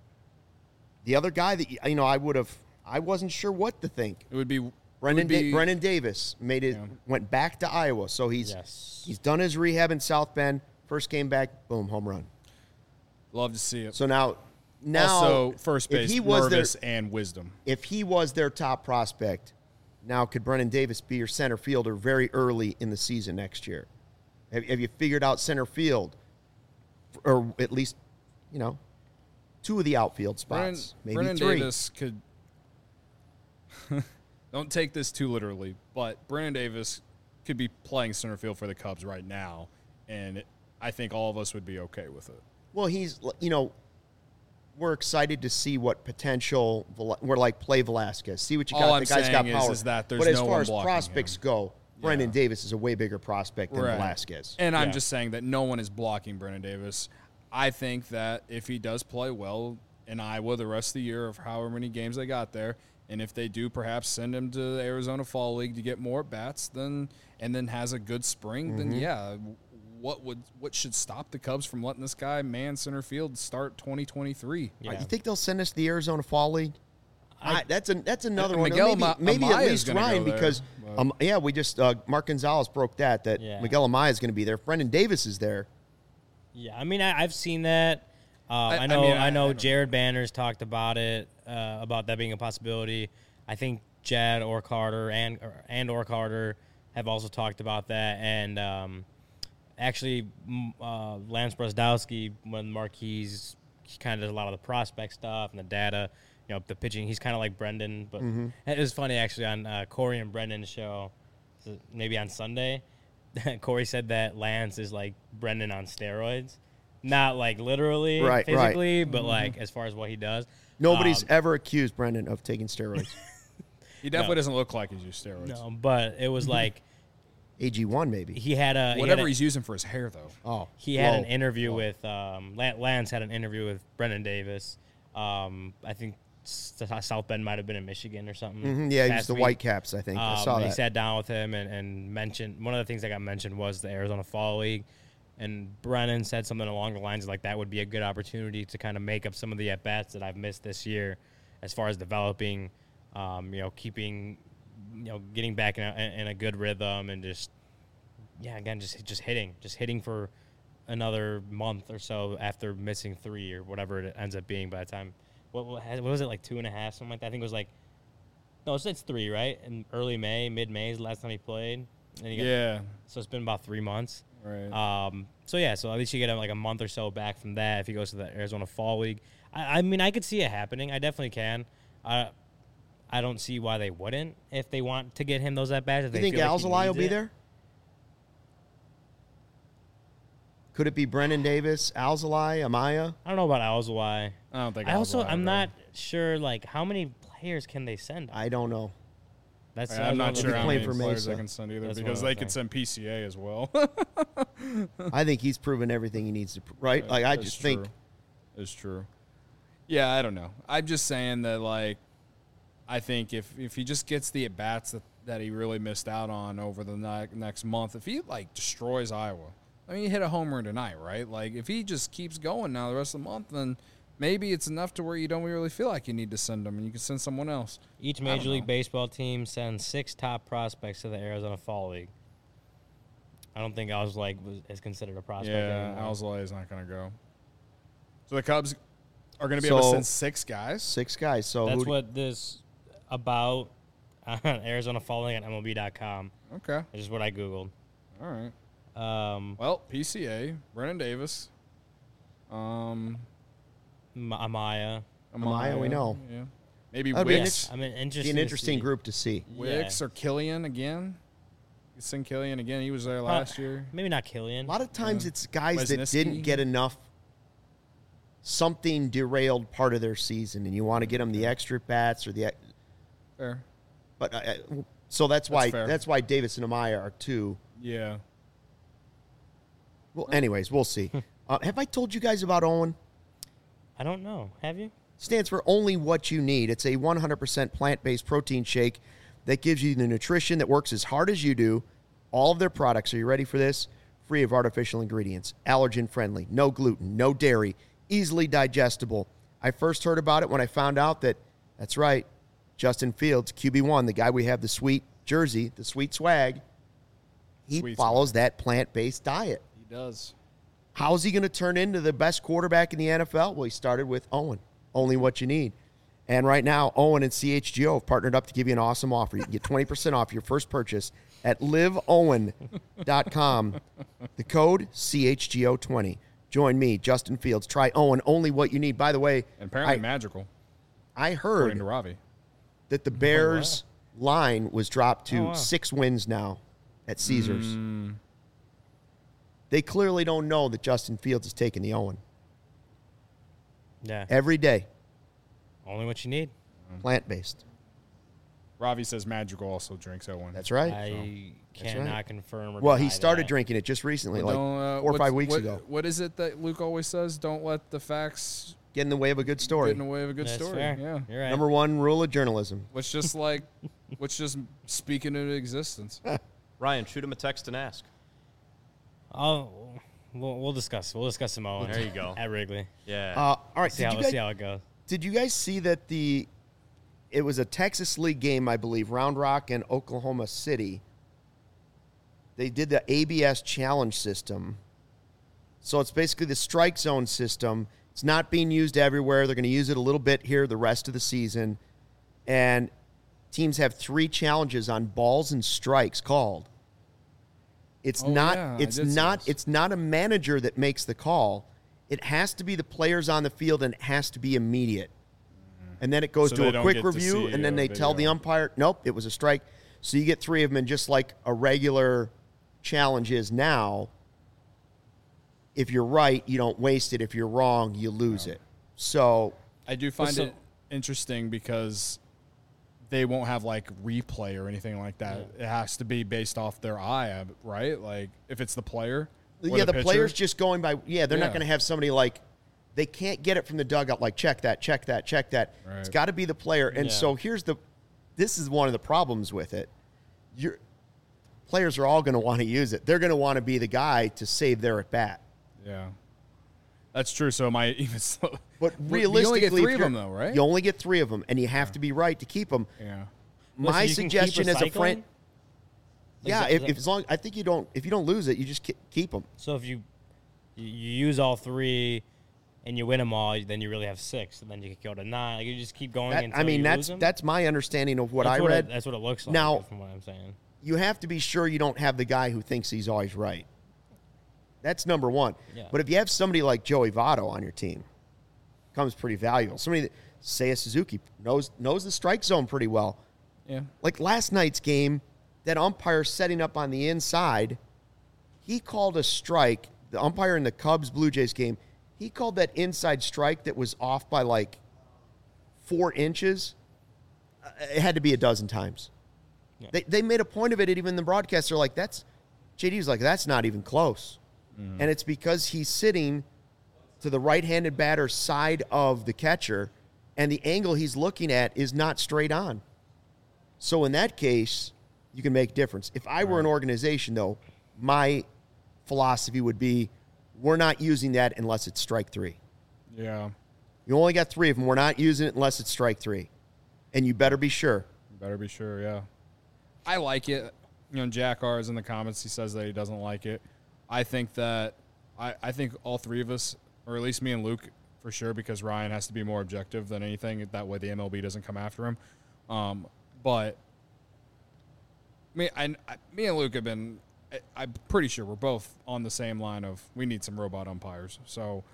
Speaker 1: The other guy that I wasn't sure what to think.
Speaker 3: It would be
Speaker 1: Brendan Davis went back to Iowa, so he's done his rehab in South Bend. First game back, boom, home run.
Speaker 3: Love to see it.
Speaker 1: So now
Speaker 3: also first base,
Speaker 1: if he was
Speaker 3: Mervis and Wisdom.
Speaker 1: If he was their top prospect, now could Brendan Davis be your center fielder very early in the season next year? Have you figured out center field, or at least, two of the outfield spots, maybe
Speaker 3: Brendan
Speaker 1: three?
Speaker 3: Davis could. Don't take this too literally, but Brendan Davis could be playing center field for the Cubs right now, and I think all of us would be okay with it.
Speaker 1: Well, we're excited to see what potential we're like. Play Velasquez, see what you got.
Speaker 3: All
Speaker 1: The guy's got power.
Speaker 3: is that there's
Speaker 1: but as
Speaker 3: no
Speaker 1: far
Speaker 3: one
Speaker 1: as
Speaker 3: blocking
Speaker 1: prospects
Speaker 3: him.
Speaker 1: go, Brendan Davis is a way bigger prospect than
Speaker 3: Right.
Speaker 1: Velasquez.
Speaker 3: And I'm just saying that no one is blocking Brendan Davis. I think that if he does play well in Iowa the rest of the year of however many games they got there, and if they do perhaps send him to the Arizona Fall League to get more at-bats, and then has a good spring, then what should stop the Cubs from letting this guy man center field start 2023?
Speaker 2: Yeah.
Speaker 1: You think they'll send us to the Arizona Fall League? That's another one.
Speaker 3: Miguel
Speaker 1: Maybe at
Speaker 3: Amaya's
Speaker 1: least
Speaker 3: gonna
Speaker 1: Ryan
Speaker 3: go there,
Speaker 1: because we just Mark Gonzalez broke that Miguel Amaya is going to be there. If Brendan Davis is there.
Speaker 2: Yeah, I mean, I've seen that. I know Jared Banner's talked about it, about that being a possibility. I think Jad or Carter and Carter have also talked about that. And actually, Lance Brosdowski, when Marquis, he kind of does a lot of the prospect stuff and the data, the pitching. He's kind of like Brendan. But it was funny, actually, on Corey and Brendan's show, maybe on Sunday, Corey said that Lance is like Brendan on steroids. Not like literally, physically, but like as far as what he does.
Speaker 1: Nobody's ever accused Brendan of taking steroids.
Speaker 3: He definitely doesn't look like he's used steroids.
Speaker 2: No, but it was like
Speaker 1: AG1 maybe.
Speaker 2: he had
Speaker 3: Whatever he's using for his hair, though.
Speaker 1: Oh,
Speaker 2: he had an interview with Lance had an interview with Brendan Davis. I think South Bend might have been in Michigan or something.
Speaker 1: Yeah, he
Speaker 2: past
Speaker 1: was the
Speaker 2: week.
Speaker 1: Whitecaps, I think. I saw that.
Speaker 2: He sat down with him and mentioned one of the things that got mentioned was the Arizona Fall League. And Brennan said something along the lines of like that would be a good opportunity to kind of make up some of the at-bats that I've missed this year as far as developing, keeping, getting back in a good rhythm and just hitting for another month or so after missing 3 or whatever it ends up being by the time. What was it, like 2.5, something like that? I think it was like, no, it's 3, right? In early May, mid-May is the last time he played. And so it's been about 3 months.
Speaker 3: Right.
Speaker 2: So at least you get like a month or so back from that if he goes to the Arizona Fall League. I mean, I could see it happening. I definitely can. I don't see why they wouldn't if they want to get him those at bats.
Speaker 1: Do you think Alzolay will be there? Could it be Brendan Davis, Alzolay, Amaya?
Speaker 2: I don't know about Alzolay.
Speaker 3: I don't think.
Speaker 2: I'm not sure. Like, how many players can they send?
Speaker 1: I don't know.
Speaker 3: I'm not sure how many
Speaker 1: for
Speaker 3: players
Speaker 1: Mesa.
Speaker 3: they can send either
Speaker 2: That's
Speaker 3: because
Speaker 2: what I'm
Speaker 3: they could send PCA as well.
Speaker 1: I think he's proven everything he needs to, right? Like, I just think.
Speaker 3: It's true. Yeah, I don't know. I'm just saying that, like, I think if he just gets the at-bats that he really missed out on over the next month, if he, like, destroys Iowa, I mean, he hit a home run tonight, right? Like, if he just keeps going now the rest of the month, then maybe it's enough to where you don't really feel like you need to send him, and you can send someone else.
Speaker 2: Each Major League Baseball team sends 6 top prospects to the Arizona Fall League. I don't think Alzolay is considered a prospect anymore.
Speaker 3: Yeah, Alzolay is not going to go. So the Cubs are going to be able to send 6 guys?
Speaker 1: 6 guys. So
Speaker 2: that's what this about on Arizona Fall League on MLB.com.
Speaker 3: Okay.
Speaker 2: Which is what I Googled.
Speaker 3: All right. Well, PCA, Brennan Davis,
Speaker 2: Amaya,
Speaker 1: we know.
Speaker 3: Yeah. Maybe
Speaker 1: Wicks.
Speaker 2: I mean,
Speaker 1: an interesting group to see.
Speaker 3: Wicks or Killian again. You send Killian again. He was there last year.
Speaker 2: Maybe not Killian.
Speaker 1: A lot of times it's guys that
Speaker 3: Wisniewski.
Speaker 1: didn't get enough. Something derailed part of their season, and you want to get them the extra bats or the.
Speaker 3: Fair.
Speaker 1: But so that's why
Speaker 3: fair.
Speaker 1: that's why Davis and Amaya are 2.
Speaker 3: Yeah.
Speaker 1: Well, anyways, we'll see. Have I told you guys about Owen?
Speaker 2: I don't know. Have you?
Speaker 1: Stands for Only What You Need. It's a 100% plant-based protein shake that gives you the nutrition that works as hard as you do. All of their products, are you ready for this? Free of artificial ingredients, allergen-friendly, no gluten, no dairy, easily digestible. I first heard about it when I found out that's right, Justin Fields, QB1, the guy we have the sweet jersey, the sweet swag, he follows that plant-based diet.
Speaker 3: He does.
Speaker 1: How's he going to turn into the best quarterback in the NFL? Well, he started with Owen, Only What You Need. And right now, Owen and CHGO have partnered up to give you an awesome offer. You can get 20% off your first purchase at liveowen.com. The code CHGO20. Join me, Justin Fields. Try Owen, Only What You Need. By the way,
Speaker 3: And apparently magical,
Speaker 1: I
Speaker 3: according
Speaker 1: heard
Speaker 3: to Ravi.
Speaker 1: that the Bears' line was dropped to 6 wins now at Caesars. They clearly don't know that Justin Fields is taking the Owen.
Speaker 2: Yeah.
Speaker 1: Every day,
Speaker 2: Only what you need.
Speaker 1: plant-based.
Speaker 3: Ravi says magical also drinks Owen.
Speaker 1: That's right.
Speaker 2: I cannot confirm or
Speaker 1: Well, he
Speaker 2: deny
Speaker 1: started
Speaker 2: that.
Speaker 1: drinking it just recently,
Speaker 3: But
Speaker 1: like
Speaker 3: don't,
Speaker 1: 4 or 5 weeks ago.
Speaker 3: What is it that Luke always says? Don't let the facts
Speaker 1: Get in the way of a good story.
Speaker 3: get in the way of a good
Speaker 2: That's
Speaker 3: story.
Speaker 2: fair.
Speaker 3: Yeah.
Speaker 2: You're right.
Speaker 1: Number 1 rule of journalism.
Speaker 3: Let's just speak into existence.
Speaker 4: Ryan, shoot him a text and ask.
Speaker 2: We'll discuss. We'll discuss some Owen.
Speaker 4: There you go.
Speaker 2: At Wrigley.
Speaker 4: Yeah.
Speaker 1: All right.
Speaker 2: See how it goes.
Speaker 1: Did you guys see that it was a Texas League game, I believe, Round Rock and Oklahoma City. They did the ABS challenge system. So it's basically the strike zone system. It's not being used everywhere. They're going to use it a little bit here the rest of the season. And teams have 3 challenges on balls and strikes called. It's not a manager that makes the call. It has to be the players on the field, and it has to be immediate. And then it goes
Speaker 3: So
Speaker 1: to
Speaker 3: they
Speaker 1: a
Speaker 3: don't
Speaker 1: quick
Speaker 3: get to
Speaker 1: review,
Speaker 3: see
Speaker 1: and then
Speaker 3: a
Speaker 1: they tell the
Speaker 3: video.
Speaker 1: umpire, nope, it was a strike. So you get 3 of them, and just like a regular challenge is now, if you're right, you don't waste it. If you're wrong, you lose it. So
Speaker 3: I do find it interesting because they won't have like replay or anything like that. It has to be based off their eye, right? Like if it's the player. Or
Speaker 1: the
Speaker 3: pitcher.
Speaker 1: player's just going by, they're not
Speaker 3: Yeah.
Speaker 1: going to have somebody like, they can't get it from the dugout, like check that, check that, check that.
Speaker 3: Right.
Speaker 1: It's got to be the player. And so this is one of the problems with it. Players are all going to want to use it. They're going to want to be the guy to save their at bat.
Speaker 3: Yeah. That's true. So am I even slow?
Speaker 1: But
Speaker 3: You
Speaker 1: realistically,
Speaker 3: only get 3
Speaker 1: if
Speaker 3: of
Speaker 1: you're-
Speaker 3: them though, right?
Speaker 1: You only get 3 of them, and you have to be right to keep them.
Speaker 3: Yeah.
Speaker 1: My
Speaker 2: you can keep
Speaker 1: suggestion as a friend,
Speaker 2: recycling?
Speaker 1: I think if you don't lose it, you just keep them.
Speaker 2: So if you use all 3 and you win them all, then you really have 6, and then you can go to 9. Like you just keep going until you lose them.
Speaker 1: That's my understanding of what
Speaker 2: That's
Speaker 1: I read.
Speaker 2: That's what it looks like.
Speaker 1: Now-
Speaker 2: from what I'm saying.
Speaker 1: You have to be sure you don't have the guy who thinks he's always right. That's number 1.
Speaker 2: Yeah.
Speaker 1: But if you have somebody like Joey Votto on your team, becomes pretty valuable. Somebody that, say a Suzuki, knows the strike zone pretty well.
Speaker 3: Yeah.
Speaker 1: Like last night's game, that umpire setting up on the inside, he called a strike. The umpire in the Cubs-Blue Jays game, he called that inside strike that was off by like 4 inches. It had to be a dozen times. Yeah. They made a point of it, even the broadcasts are like, JD was like, that's not even close. and it's because he's sitting to the right-handed batter's side of the catcher, and the angle he's looking at is not straight on. So in that case, you can make a difference. If I were an organization, though, my philosophy would be we're not using that unless it's strike 3.
Speaker 3: Yeah.
Speaker 1: You only got 3 of them. We're not using it unless it's strike 3. And you better be sure.
Speaker 3: Better be sure, yeah. I like it. Jack R is in the comments. He says that he doesn't like it. I think that I think all 3 of us, or at least me and Luke for sure, because Ryan has to be more objective than anything. That way the MLB doesn't come after him. But me and Luke have been, I'm pretty sure we're both on the same line of we need some robot umpires. So,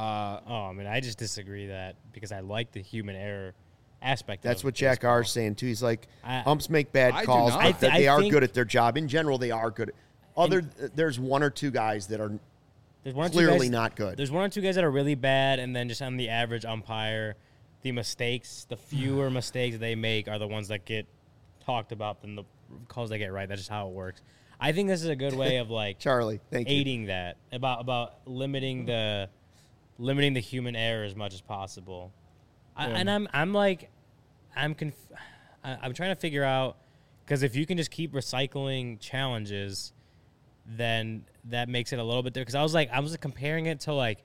Speaker 2: I just disagree that because I like the human error aspect.
Speaker 1: That's
Speaker 2: of
Speaker 1: what Jack
Speaker 2: baseball.
Speaker 1: R is saying too. He's like, umps make bad
Speaker 3: I do
Speaker 1: calls,
Speaker 3: not.
Speaker 1: but they are
Speaker 2: think-
Speaker 1: good at their job. In general, they are good. There's 1 or 2 guys that are
Speaker 2: There's one or two
Speaker 1: clearly
Speaker 2: guys-
Speaker 1: not good.
Speaker 2: There's 1 or 2 guys that are really bad, and then just on the average umpire, the fewer mistakes they make are the ones that get talked about than the calls they get right. That's just how it works. I think this is a good way of like
Speaker 1: Charlie, thank you.
Speaker 2: aiding that about limiting the human error as much as possible. I'm trying to figure out, because if you can just keep recycling challenges, then that makes it a little bit different. Because I was comparing it to like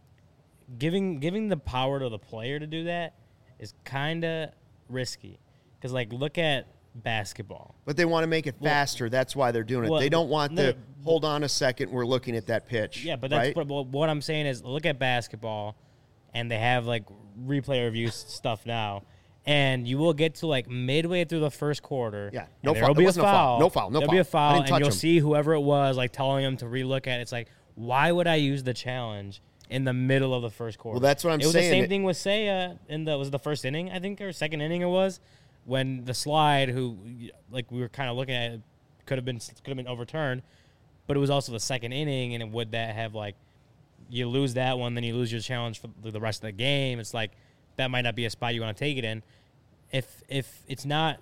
Speaker 2: giving the power to the player to do that is kind of risky. Because like look at basketball.
Speaker 1: But they want to make it faster. That's why they're doing it. They don't want hold on a second, we're looking at that pitch.
Speaker 2: Yeah, but
Speaker 1: right?
Speaker 2: but what I'm saying is look at basketball, and they have like replay review stuff now, and you will get to like midway through the first quarter.
Speaker 1: Yeah,
Speaker 2: no foul. There'll be a foul.
Speaker 1: No foul.
Speaker 2: There'll be a
Speaker 1: I
Speaker 2: foul,
Speaker 1: didn't
Speaker 2: and
Speaker 1: touch
Speaker 2: you'll
Speaker 1: him.
Speaker 2: see whoever it was like telling him to relook at it. It's like, why would I use the challenge in the middle of the first quarter?
Speaker 1: Well, that's what I'm
Speaker 2: saying. It was
Speaker 1: saying.
Speaker 2: the same thing with Seiya was it the first inning, I think, or second inning it was, when the slide, who like we were kind of looking at it, could have been overturned, but it was also the second inning, and would that have like you lose that one, then you lose your challenge for the rest of the game? It's like that might not be a spot you want to take it in. If it's not,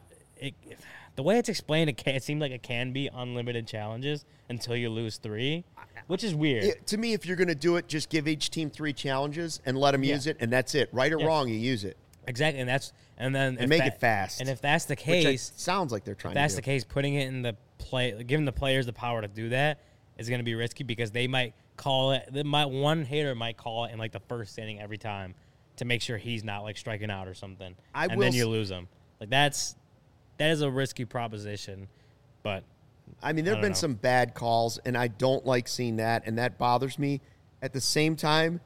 Speaker 2: the way it's explained, it seems like it can be unlimited challenges until you lose 3, which is weird.
Speaker 1: To me, if you're going to do it, just give each team 3 challenges and let them use it, and that's it. Right or wrong, you use it.
Speaker 2: Exactly, and then
Speaker 1: make it fast.
Speaker 2: And if that's the
Speaker 1: Which
Speaker 2: case,
Speaker 1: sounds like they're trying.
Speaker 2: that's
Speaker 1: to
Speaker 2: the
Speaker 1: do.
Speaker 2: case. Putting it in the play, giving the players the power to do that is going to be risky because they might call it. One hitter might call it in like the first inning every time to make sure he's not like striking out or something, then you lose him. Like that is a risky proposition, but
Speaker 1: I mean, there have been some bad calls, and I don't like seeing that, and that bothers me. At the same time,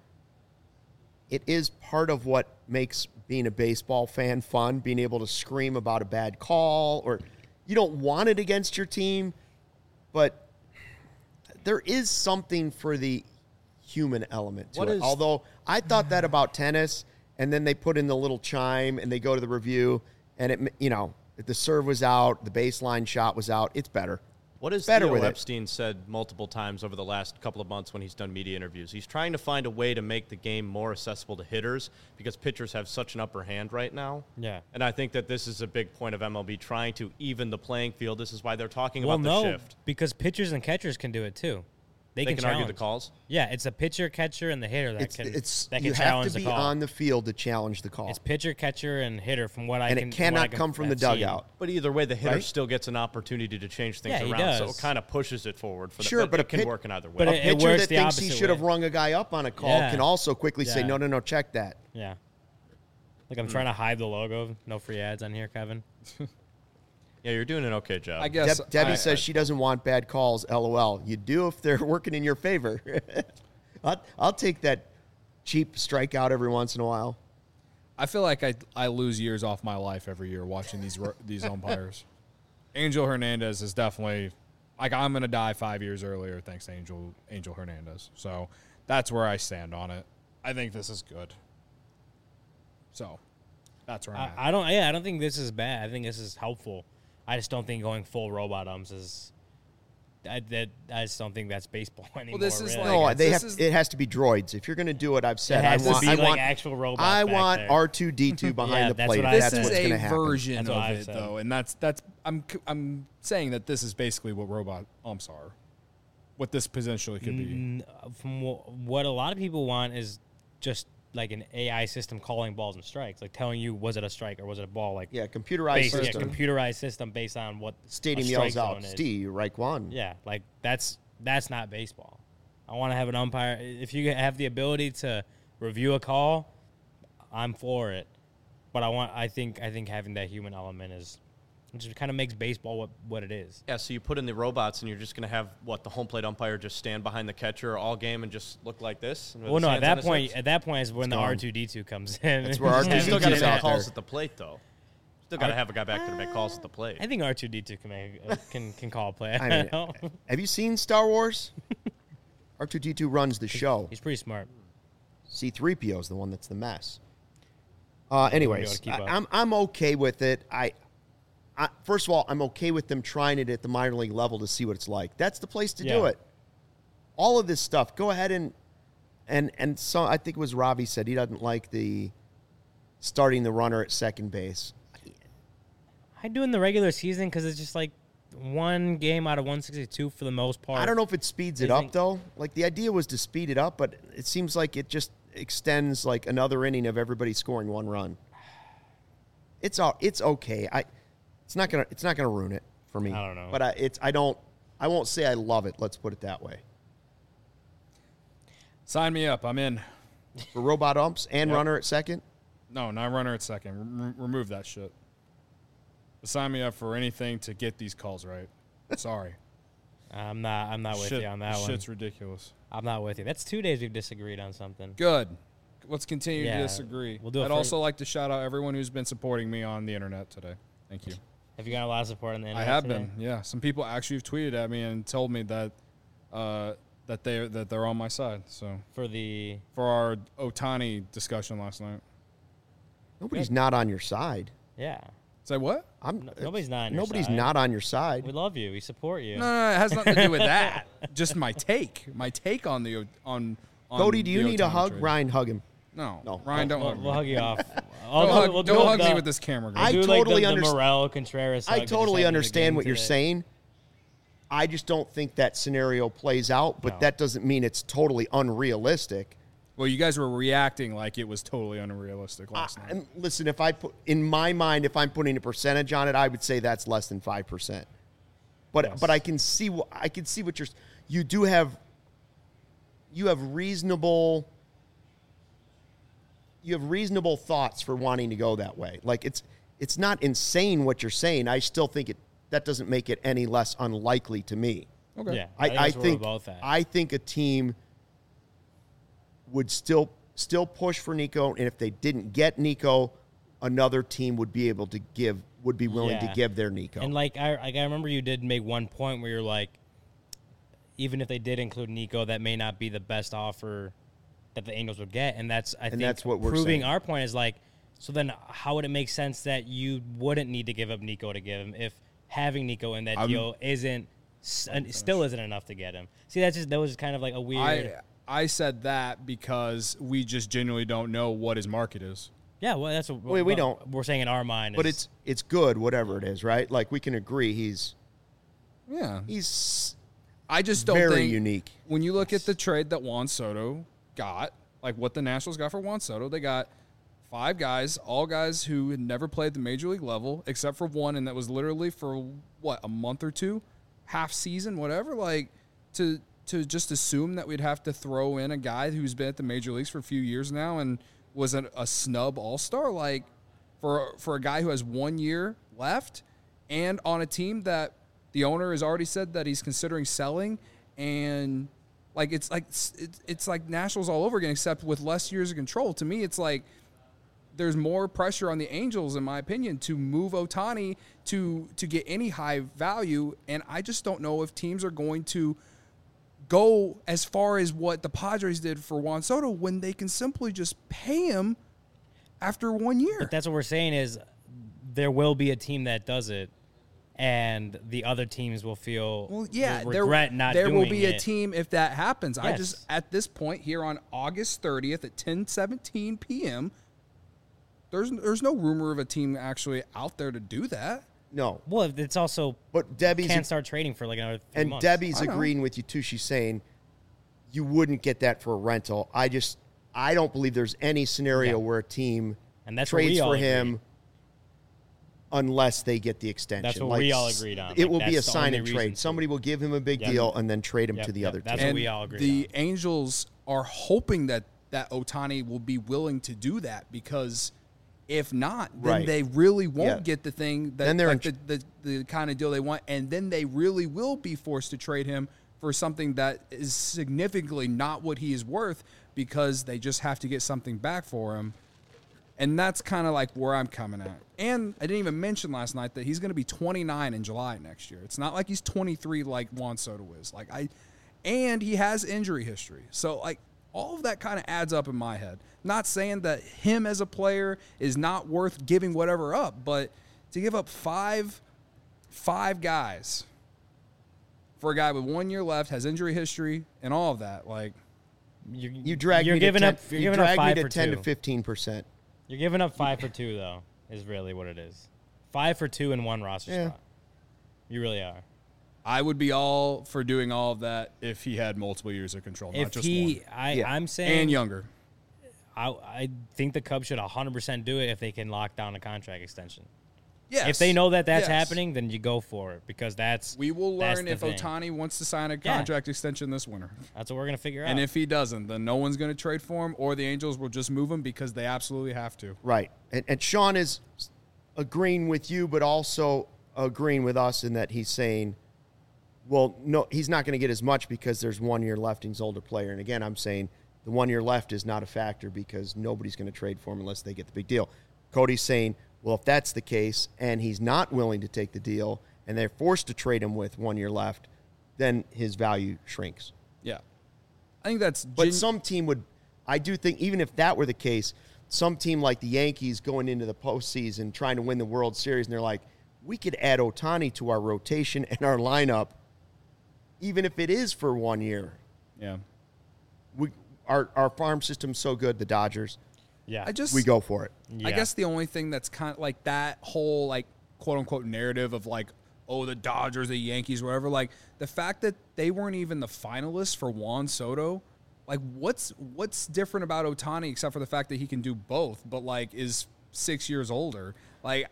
Speaker 1: it is part of what makes being a baseball fan fun, being able to scream about a bad call, or you don't want it against your team, but there is something for the human element to it. Although I thought that about tennis, and then they put in the little chime, and they go to the review, and if the serve was out, the baseline shot was out, it's better.
Speaker 4: What has Theo Epstein said multiple times over the last couple of months when he's done media interviews? He's trying to find a way to make the game more accessible to hitters because pitchers have such an upper hand right now.
Speaker 2: Yeah.
Speaker 4: And I think that this is a big point of MLB, trying to even the playing field. This is why they're talking about the shift.
Speaker 2: Because pitchers and catchers can do it too. They can
Speaker 4: argue the calls?
Speaker 2: Yeah, it's a pitcher, catcher, and the hitter that can
Speaker 1: you
Speaker 2: challenge
Speaker 1: have to
Speaker 2: the
Speaker 1: be
Speaker 2: call.
Speaker 1: on the field to challenge the call.
Speaker 2: It's pitcher, catcher, and hitter from what I can.
Speaker 1: And it cannot come from the dugout.
Speaker 4: But either way, the hitter
Speaker 1: Right?
Speaker 4: still gets an opportunity to change things
Speaker 2: Yeah, he
Speaker 4: around, so
Speaker 2: does.
Speaker 4: it kind of pushes it forward. For
Speaker 1: Sure,
Speaker 4: that.
Speaker 1: but
Speaker 4: it can work in either way.
Speaker 2: but
Speaker 1: A
Speaker 2: it
Speaker 1: pitcher
Speaker 2: works
Speaker 1: that
Speaker 2: the
Speaker 1: thinks he
Speaker 2: opposite
Speaker 1: should have
Speaker 2: way.
Speaker 1: rung a guy up on a call
Speaker 2: Yeah.
Speaker 1: can also quickly say,
Speaker 2: Yeah.
Speaker 1: no, check that.
Speaker 2: Yeah. Like I'm trying to hide the logo. No free ads on here, Kevin.
Speaker 4: Yeah, you're doing an okay job.
Speaker 3: I guess
Speaker 1: Debbie says she doesn't want bad calls, LOL. You do if they're working in your favor. I'll take that cheap strikeout every once in a while.
Speaker 3: I feel like I lose years off my life every year watching these umpires. Angel Hernandez is definitely like I'm gonna die 5 years earlier thanks to Angel Hernandez. So that's where I stand on it. I think this is good. So that's where I'm at.
Speaker 2: I don't think this is bad. I think this is helpful. I just don't think going full robot umps is. I just don't think that's baseball anymore.
Speaker 3: this is
Speaker 2: really.
Speaker 3: like-
Speaker 1: No,
Speaker 3: This is-
Speaker 1: it has to be droids. If you're going to do it, I've said
Speaker 2: It has to be
Speaker 1: I
Speaker 2: like
Speaker 1: want
Speaker 2: actual robots.
Speaker 1: I
Speaker 2: back
Speaker 1: want
Speaker 2: there.
Speaker 1: R2D2 behind the
Speaker 2: that's
Speaker 1: plate.
Speaker 2: what I
Speaker 1: That's
Speaker 3: This
Speaker 2: said.
Speaker 3: is
Speaker 1: what's going to
Speaker 3: a
Speaker 1: happen.
Speaker 3: version
Speaker 2: That's what
Speaker 3: of
Speaker 2: I've
Speaker 3: it,
Speaker 2: said.
Speaker 3: though, and I'm saying that this is basically what robot umps are, what this potentially could be.
Speaker 2: From what a lot of people want is just like an AI system calling balls and strikes, like telling you was it a strike or was it a ball. Like
Speaker 1: computerized system.
Speaker 2: Computerized system based on what
Speaker 1: stadium yells out. Steve, right one.
Speaker 2: Yeah, like that's not baseball. I want to have an umpire. If you have the ability to review a call, I'm for it. But I think having that human element just kind of makes baseball what it is.
Speaker 4: Yeah, so you put in the robots and you're just going to have, the home plate umpire just stand behind the catcher all game and just look like this?
Speaker 2: Well, no, at that point is when the R2-D2 comes in.
Speaker 1: That's where R2-D2
Speaker 4: you still got to make calls
Speaker 1: there.
Speaker 4: at the plate, though. Still got to have a guy back there to make calls at the plate.
Speaker 2: I think R2-D2 can call a play.
Speaker 1: I mean, have you seen Star Wars? R2-D2 runs the show.
Speaker 2: He's pretty smart.
Speaker 1: C-3PO is the one that's the mess. Anyways, I'm okay with it. First of all, I'm okay with them trying it at the minor league level to see what it's like. That's the place to do it. All of this stuff, go ahead and so I think it was Ravi said he doesn't like the starting the runner at second base.
Speaker 2: I do in the regular season because it's just like one game out of 162 for the most part.
Speaker 1: I don't know if it speeds it up though. Like the idea was to speed it up, but it seems like it just extends like another inning of everybody scoring one run. It's okay. It's not gonna ruin it for me.
Speaker 2: I don't know.
Speaker 1: But I won't say I love it. Let's put it that way.
Speaker 3: Sign me up. I'm in.
Speaker 1: For robot umps and runner at second?
Speaker 3: No, not runner at second. Remove that shit. But sign me up for anything to get these calls right. Sorry.
Speaker 2: I'm not with you on that one.
Speaker 3: Shit's ridiculous.
Speaker 2: I'm not with you. That's 2 days we've disagreed on something.
Speaker 3: Good. Let's continue to disagree.
Speaker 2: We'll do it.
Speaker 3: I'd also like to shout out everyone who's been supporting me on the internet today. Thank you.
Speaker 2: Have you got a lot of support on the internet?
Speaker 3: I have
Speaker 2: today?
Speaker 3: been. Yeah, some people actually have tweeted at me and told me that they're on my side. So
Speaker 2: for
Speaker 3: our Ohtani discussion last night.
Speaker 1: Nobody's not on your side.
Speaker 2: Yeah.
Speaker 3: Say what?
Speaker 2: Nobody's not on your
Speaker 1: Nobody's
Speaker 2: side.
Speaker 1: not on your side.
Speaker 2: We love you. We support you.
Speaker 3: No, it has nothing to do with that. Just my take. My take on the on.
Speaker 1: Cody, do you
Speaker 3: the
Speaker 1: need a
Speaker 3: Ohtani
Speaker 1: hug?
Speaker 3: trade.
Speaker 1: Ryan, hug him.
Speaker 3: No. Ryan, don't hug me.
Speaker 2: We'll hug you off.
Speaker 3: Don't hug me with this camera.
Speaker 1: I
Speaker 2: do
Speaker 1: totally
Speaker 2: the
Speaker 1: understand.
Speaker 2: Morel Contreras.
Speaker 1: I totally understand what you're saying. I just don't think that scenario plays out, but that doesn't mean it's totally unrealistic.
Speaker 3: Well, you guys were reacting like it was totally unrealistic last night.
Speaker 1: And listen, if I put in my mind, if I'm putting a percentage on it, I would say that's less than 5%. But I can see what you have reasonable thoughts for wanting to go that way. Like it's not insane what you're saying. I still think that doesn't make it any less unlikely to me.
Speaker 3: Okay.
Speaker 2: Yeah,
Speaker 1: I think a team would still push for Nico, and if they didn't get Nico, another team would be willing to give their Nico.
Speaker 2: And I remember you did make one point where you're like, even if they did include Nico, that may not be the best offer that the Angels would get, and that's
Speaker 1: what we're
Speaker 2: proving
Speaker 1: saying.
Speaker 2: our point is like, so then how would it make sense that you wouldn't need to give up Nico to give him if having Nico in that deal still isn't enough to get him? See, that was kind of like a weird.
Speaker 3: I said that because we just genuinely don't know what his market is.
Speaker 2: Yeah, well, that's what
Speaker 1: we don't.
Speaker 2: We're saying in our mind,
Speaker 1: but it's good, whatever it is, right? Like we can agree he's
Speaker 3: I just don't
Speaker 1: very
Speaker 3: think
Speaker 1: unique.
Speaker 3: When you look at the trade that Juan Soto got, like what the Nationals got for Juan Soto, they got 5 guys, all guys who had never played the major league level, except for one, and that was literally for a month or two, half season, whatever. Like to just assume that we'd have to throw in a guy who's been at the major leagues for a few years now and was a snub all-star, like for a guy who has 1 year left and on a team that the owner has already said that he's considering selling, and it's like Nationals all over again, except with less years of control. To me, it's like there's more pressure on the Angels, in my opinion, to move Ohtani to get any high value, and I just don't know if teams are going to go as far as what the Padres did for Juan Soto when they can simply just pay him after 1 year.
Speaker 2: But that's what we're saying is there will be a team that does it, and the other teams will feel regret not doing it.
Speaker 3: There will be a team if that happens. Yes. I just, at this point here on August 30th at 10:17 p.m., there's no rumor of a team actually out there to do that.
Speaker 1: No.
Speaker 2: Well, it's also
Speaker 1: But Debbie's
Speaker 2: can't start trading for like another 3
Speaker 1: and
Speaker 2: months.
Speaker 1: Debbie's
Speaker 3: I know.
Speaker 1: agreeing with you too. She's saying you wouldn't get that for a rental. I don't believe there's any scenario
Speaker 2: Yeah.
Speaker 1: where a team
Speaker 2: And that's what
Speaker 1: trades
Speaker 2: we all
Speaker 1: for
Speaker 2: agree.
Speaker 1: him unless they get the extension.
Speaker 2: That's what we all agreed on.
Speaker 1: It
Speaker 2: Like,
Speaker 1: will be a
Speaker 2: that's the
Speaker 1: sign
Speaker 2: only
Speaker 1: and
Speaker 2: reason
Speaker 1: trade.
Speaker 2: to.
Speaker 1: Somebody will give him a big
Speaker 2: Yep.
Speaker 1: deal and then trade him
Speaker 2: Yep,
Speaker 1: to the
Speaker 2: yep.
Speaker 1: other
Speaker 2: That's
Speaker 1: team.
Speaker 2: what we all agree
Speaker 3: The
Speaker 2: on.
Speaker 3: Angels are hoping that Ohtani will be willing to do that, because if not, then
Speaker 1: Right.
Speaker 3: they really won't
Speaker 1: Yeah.
Speaker 3: get the thing that
Speaker 1: Then they're
Speaker 3: like
Speaker 1: in
Speaker 3: the kind of deal they want, and then they really will be forced to trade him for something that is significantly not what he is worth, because they just have to get something back for him. And that's kind of like where I'm coming at. And I didn't even mention last night that he's going to be 29 in July next year. It's not like he's 23 like Juan Soto is. And he has injury history. So like all of that kind of adds up in my head. Not saying that him as a player is not worth giving whatever up, but to give up five guys for a guy with 1 year left, has injury history and all of that, like
Speaker 1: You drag
Speaker 2: You're
Speaker 1: me
Speaker 2: giving
Speaker 1: to 10,
Speaker 2: up. You're
Speaker 1: you
Speaker 2: giving up
Speaker 1: drag me
Speaker 2: 5
Speaker 1: to
Speaker 2: for
Speaker 1: 10
Speaker 2: 2.
Speaker 1: to 15%.
Speaker 2: You're giving up 5 for 2 though. Is really what it is. 5 for 2 in one roster
Speaker 1: Yeah.
Speaker 2: spot. You really are.
Speaker 3: I would be all for doing all of that if he had multiple years of control, not
Speaker 2: If
Speaker 3: just
Speaker 2: he,
Speaker 3: one.
Speaker 1: Yeah.
Speaker 2: I'm saying,
Speaker 3: And younger.
Speaker 2: I think the Cubs should 100% do it if they can lock down a contract extension.
Speaker 3: Yes.
Speaker 2: If they know that that's
Speaker 3: Yes.
Speaker 2: happening, then you go for it, because that's
Speaker 3: We will
Speaker 2: that's
Speaker 3: learn
Speaker 2: the
Speaker 3: if
Speaker 2: thing.
Speaker 3: Ohtani wants to sign a
Speaker 2: Yeah.
Speaker 3: contract extension this winter.
Speaker 2: That's what we're gonna figure out.
Speaker 3: And if he doesn't, then no one's going to trade for him, or the Angels will just move him because they absolutely have to.
Speaker 1: Right. And Sean is agreeing with you, but also agreeing with us in that he's saying, well, no, he's not going to get as much because there's 1 year left and he's an older player. And again, I'm saying the 1 year left is not a factor because nobody's going to trade for him unless they get the big deal. Cody's saying, well, if that's the case and he's not willing to take the deal and they're forced to trade him with 1 year left, then his value shrinks.
Speaker 3: Yeah. I think that's...
Speaker 1: But some team would, I do think, even if that were the case, some team like the Yankees going into the postseason trying to win the World Series, and they're like, we could add Ohtani to our rotation and our lineup, even if it is for 1 year.
Speaker 3: Yeah.
Speaker 1: Our farm system's so good, the Dodgers,
Speaker 2: yeah,
Speaker 3: I
Speaker 1: we go for it.
Speaker 2: Yeah.
Speaker 3: I guess the only thing that's kind of like that whole like quote unquote narrative of like, oh, the Dodgers, the Yankees, whatever, like the fact that they weren't even the finalists for Juan Soto, like what's different about Ohtani except for the fact that he can do both, but like is 6 years older. Like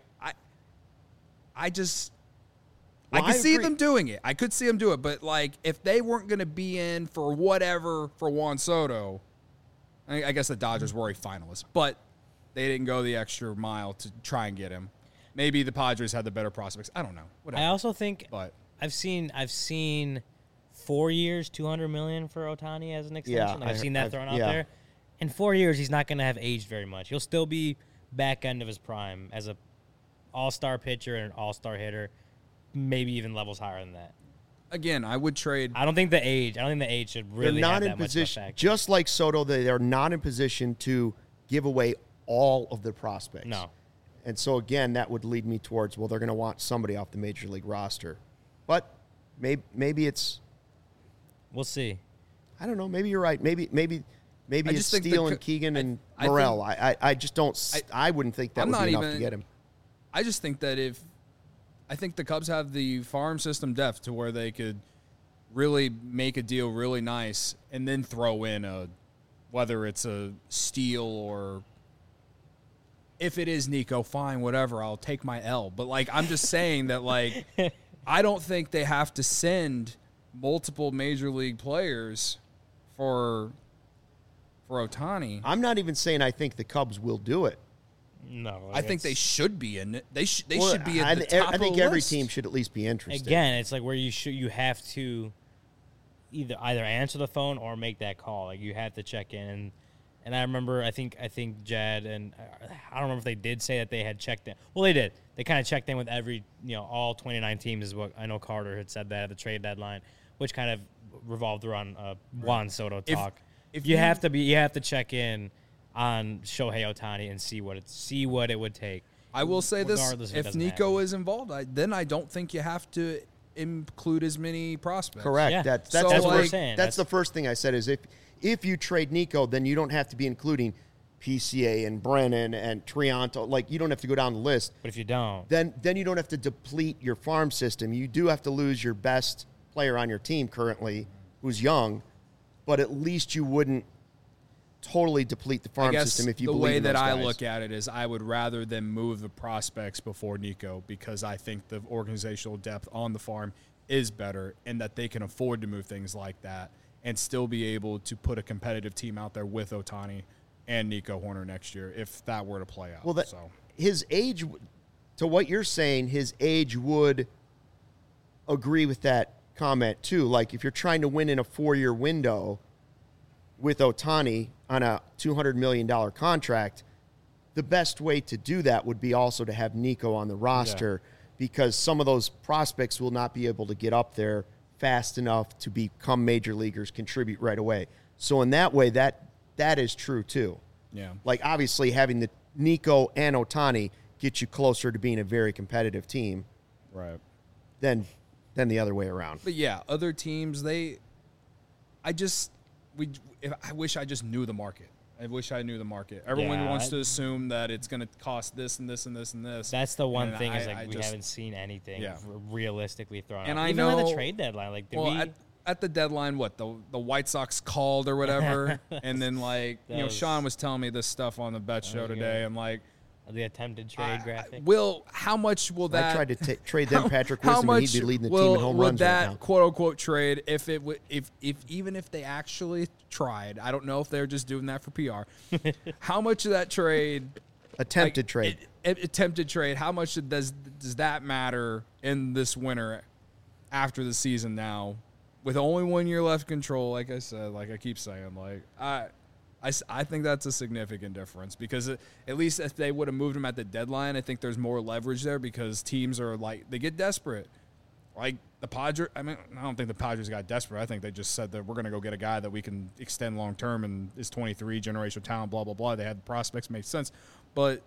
Speaker 3: I just
Speaker 1: Well,
Speaker 3: I could
Speaker 1: I
Speaker 3: see
Speaker 1: agree.
Speaker 3: them doing it. I could see them do it, but like if they weren't going to be in for whatever for Juan Soto, I guess the Dodgers were a finalist, but they didn't go the extra mile to try and get him. Maybe the Padres had the better prospects. I don't know. Whatever.
Speaker 2: I also think
Speaker 3: But
Speaker 2: I've seen 4 years, $200 million for Ohtani as an extension.
Speaker 1: Yeah,
Speaker 2: I've seen that thrown out
Speaker 1: yeah.
Speaker 2: there. In 4 years, he's not going to have aged very much. He'll still be back end of his prime as a all-star pitcher and an all-star hitter, maybe even levels higher than that.
Speaker 3: again, I would trade.
Speaker 2: I don't think the age should really
Speaker 1: They're not
Speaker 2: have
Speaker 1: in
Speaker 2: that much
Speaker 1: position,
Speaker 2: of a factor.
Speaker 1: just like Soto, they are not in position to give away all of the prospects.
Speaker 2: No.
Speaker 1: And so, again, that would lead me towards, well, they're going to want somebody off the Major League roster. But maybe it's,
Speaker 2: We'll see.
Speaker 1: I don't know, maybe you're right. Maybe
Speaker 3: I
Speaker 1: it's
Speaker 3: just think
Speaker 1: Steele
Speaker 3: the
Speaker 1: and Keegan and
Speaker 3: I
Speaker 1: Morel.
Speaker 3: think-
Speaker 1: I just don't, I wouldn't think that
Speaker 3: I'm
Speaker 1: would
Speaker 3: not
Speaker 1: be enough
Speaker 3: even-
Speaker 1: to get him.
Speaker 3: I just think that I think the Cubs have the farm system depth to where they could really make a deal really nice and then throw in whether it's a Steele or if it is Nico, fine, whatever, I'll take my L. But like I'm just saying that like I don't think they have to send multiple major league players for Ohtani.
Speaker 1: I'm not even saying I think the Cubs will do it.
Speaker 2: No.
Speaker 3: I think they should be in it. They
Speaker 1: Well,
Speaker 3: should be at the top
Speaker 1: I think
Speaker 3: of the
Speaker 1: every
Speaker 3: list.
Speaker 1: team should at least be interested.
Speaker 2: Again, it's like where you have to either answer the phone or make that call. Like you have to check in. And I remember, I think Jad and I don't remember if they did say that they had checked in. Well, they did. They kind of checked in with all 29 teams is what I know Carter had said that at the trade deadline, which kind of revolved around Juan Soto talk.
Speaker 3: If
Speaker 2: you have to check in on Shohei Ohtani and see what it would take.
Speaker 3: I will say this:
Speaker 2: regardless it
Speaker 3: if
Speaker 2: doesn't
Speaker 3: Nico
Speaker 2: happen.
Speaker 3: is involved, then I don't think you have to include as many prospects.
Speaker 1: Correct.
Speaker 2: Yeah.
Speaker 1: That's
Speaker 3: So,
Speaker 1: the
Speaker 2: That's what we're
Speaker 1: first-
Speaker 2: saying.
Speaker 1: That's the first thing I said is if you trade Nico, then you don't have to be including PCA and Brennan and Trianto. Like, you don't have to go down the list.
Speaker 2: But if you don't,
Speaker 1: Then you don't have to deplete your farm system. You do have to lose your best player on your team currently, who's young, but at least you wouldn't totally deplete the farm system if you
Speaker 3: the
Speaker 1: believe
Speaker 3: way
Speaker 1: in
Speaker 3: that
Speaker 1: those
Speaker 3: I
Speaker 1: guys.
Speaker 3: look at it is I would rather them move the prospects before Nico, because I think the organizational depth on the farm is better and that they can afford to move things like that and still be able to put a competitive team out there with Ohtani and Nico Horner next year if that were to play out.
Speaker 1: Well, his age, to what you're saying, his age would agree with that comment too. Like, if you're trying to win in a 4-year window with Ohtani on a $200 million contract, the best way to do that would be also to have Nico on the roster, because some of those prospects will not be able to get up there fast enough to become major leaguers, contribute right away. So in that way, that is true too.
Speaker 3: Yeah.
Speaker 1: Like, obviously having the Nico and Ohtani get you closer to being a very competitive team
Speaker 3: Right.
Speaker 1: than the other way around.
Speaker 3: But yeah, other teams, I wish I just knew the market. I wish I knew the market. Everyone
Speaker 2: Yeah,
Speaker 3: wants to assume that it's going to cost this and this and this and this.
Speaker 2: that's the one
Speaker 3: And
Speaker 2: thing is
Speaker 3: I
Speaker 2: like we
Speaker 3: just-
Speaker 2: haven't seen anything
Speaker 3: Yeah.
Speaker 2: realistically thrown
Speaker 3: And
Speaker 2: out.
Speaker 3: I
Speaker 2: Even at the
Speaker 3: know-
Speaker 2: trade deadline, like, did
Speaker 3: Well,
Speaker 2: we?
Speaker 3: at the deadline, what the White Sox called or whatever, and then like
Speaker 2: That was-
Speaker 3: Sean was telling me this stuff on the bet show
Speaker 2: was
Speaker 3: today.
Speaker 2: good.
Speaker 3: I'm like,
Speaker 2: The attempted trade graphic.
Speaker 3: how much will that?
Speaker 1: I tried to trade them Patrick
Speaker 3: how
Speaker 1: Wisdom, and
Speaker 3: much
Speaker 1: he'd be leading the
Speaker 3: will,
Speaker 1: team in home
Speaker 3: would
Speaker 1: runs
Speaker 3: that
Speaker 1: right now.
Speaker 3: quote unquote trade if it would if even if they actually tried? I don't know if they're just doing that for PR. How much of that trade?
Speaker 1: Attempted trade.
Speaker 3: Attempted trade. How much does that matter in this winter after the season now, with only 1 year left control? Like I said, like I keep saying, like I think that's a significant difference, because at least if they would have moved him at the deadline, I think there's more leverage there, because teams are like, they get desperate. Like the Padres, I mean, I don't think the Padres got desperate. I think they just said that we're going to go get a guy that we can extend long term and is 23, generational talent, blah blah blah. They had the prospects, made sense, but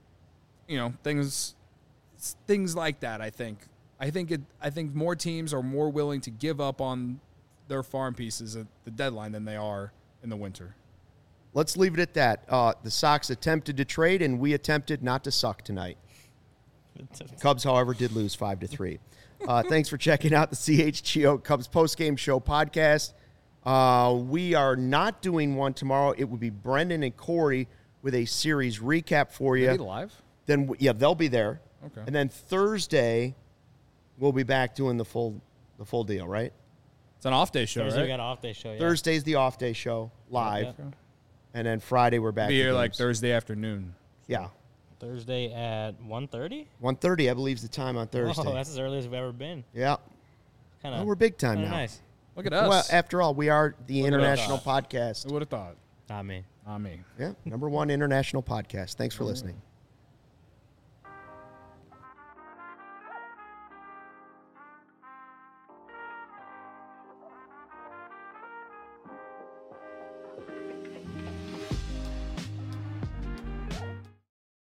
Speaker 3: things like that. I think more teams are more willing to give up on their farm pieces at the deadline than they are in the winter.
Speaker 1: Let's leave it at that. The Sox attempted to trade, and we attempted not to suck tonight. Cubs, however, did lose 5-3. Thanks for checking out the CHGO Cubs postgame show podcast. We are not doing one tomorrow. It would be Brendan and Corey with a series recap for you.
Speaker 3: Are they live?
Speaker 1: Then they'll be there.
Speaker 3: Okay.
Speaker 1: And then Thursday, we'll be back doing the full deal, right?
Speaker 3: It's an off day show,
Speaker 2: Thursday we
Speaker 3: right?
Speaker 2: got an off day show. Yeah.
Speaker 1: Thursday's the off day show live,
Speaker 2: Yeah.
Speaker 1: and then Friday we're back.
Speaker 3: Be
Speaker 1: to
Speaker 3: here like
Speaker 1: games.
Speaker 3: Thursday afternoon.
Speaker 1: Yeah,
Speaker 2: Thursday at 1:30.
Speaker 1: 1:30, I believe, is the time on Thursday.
Speaker 2: Oh, that's as early as we've ever been.
Speaker 1: Yeah,
Speaker 2: Kind
Speaker 1: well,
Speaker 2: of.
Speaker 1: we're big time now.
Speaker 2: Nice.
Speaker 3: Look at us.
Speaker 1: Well, after all, we are the
Speaker 3: Look at
Speaker 1: international
Speaker 3: us.
Speaker 1: podcast.
Speaker 3: Who would have thought?
Speaker 2: Not me.
Speaker 3: Not me.
Speaker 1: Yeah, #1 international podcast. Thanks for listening.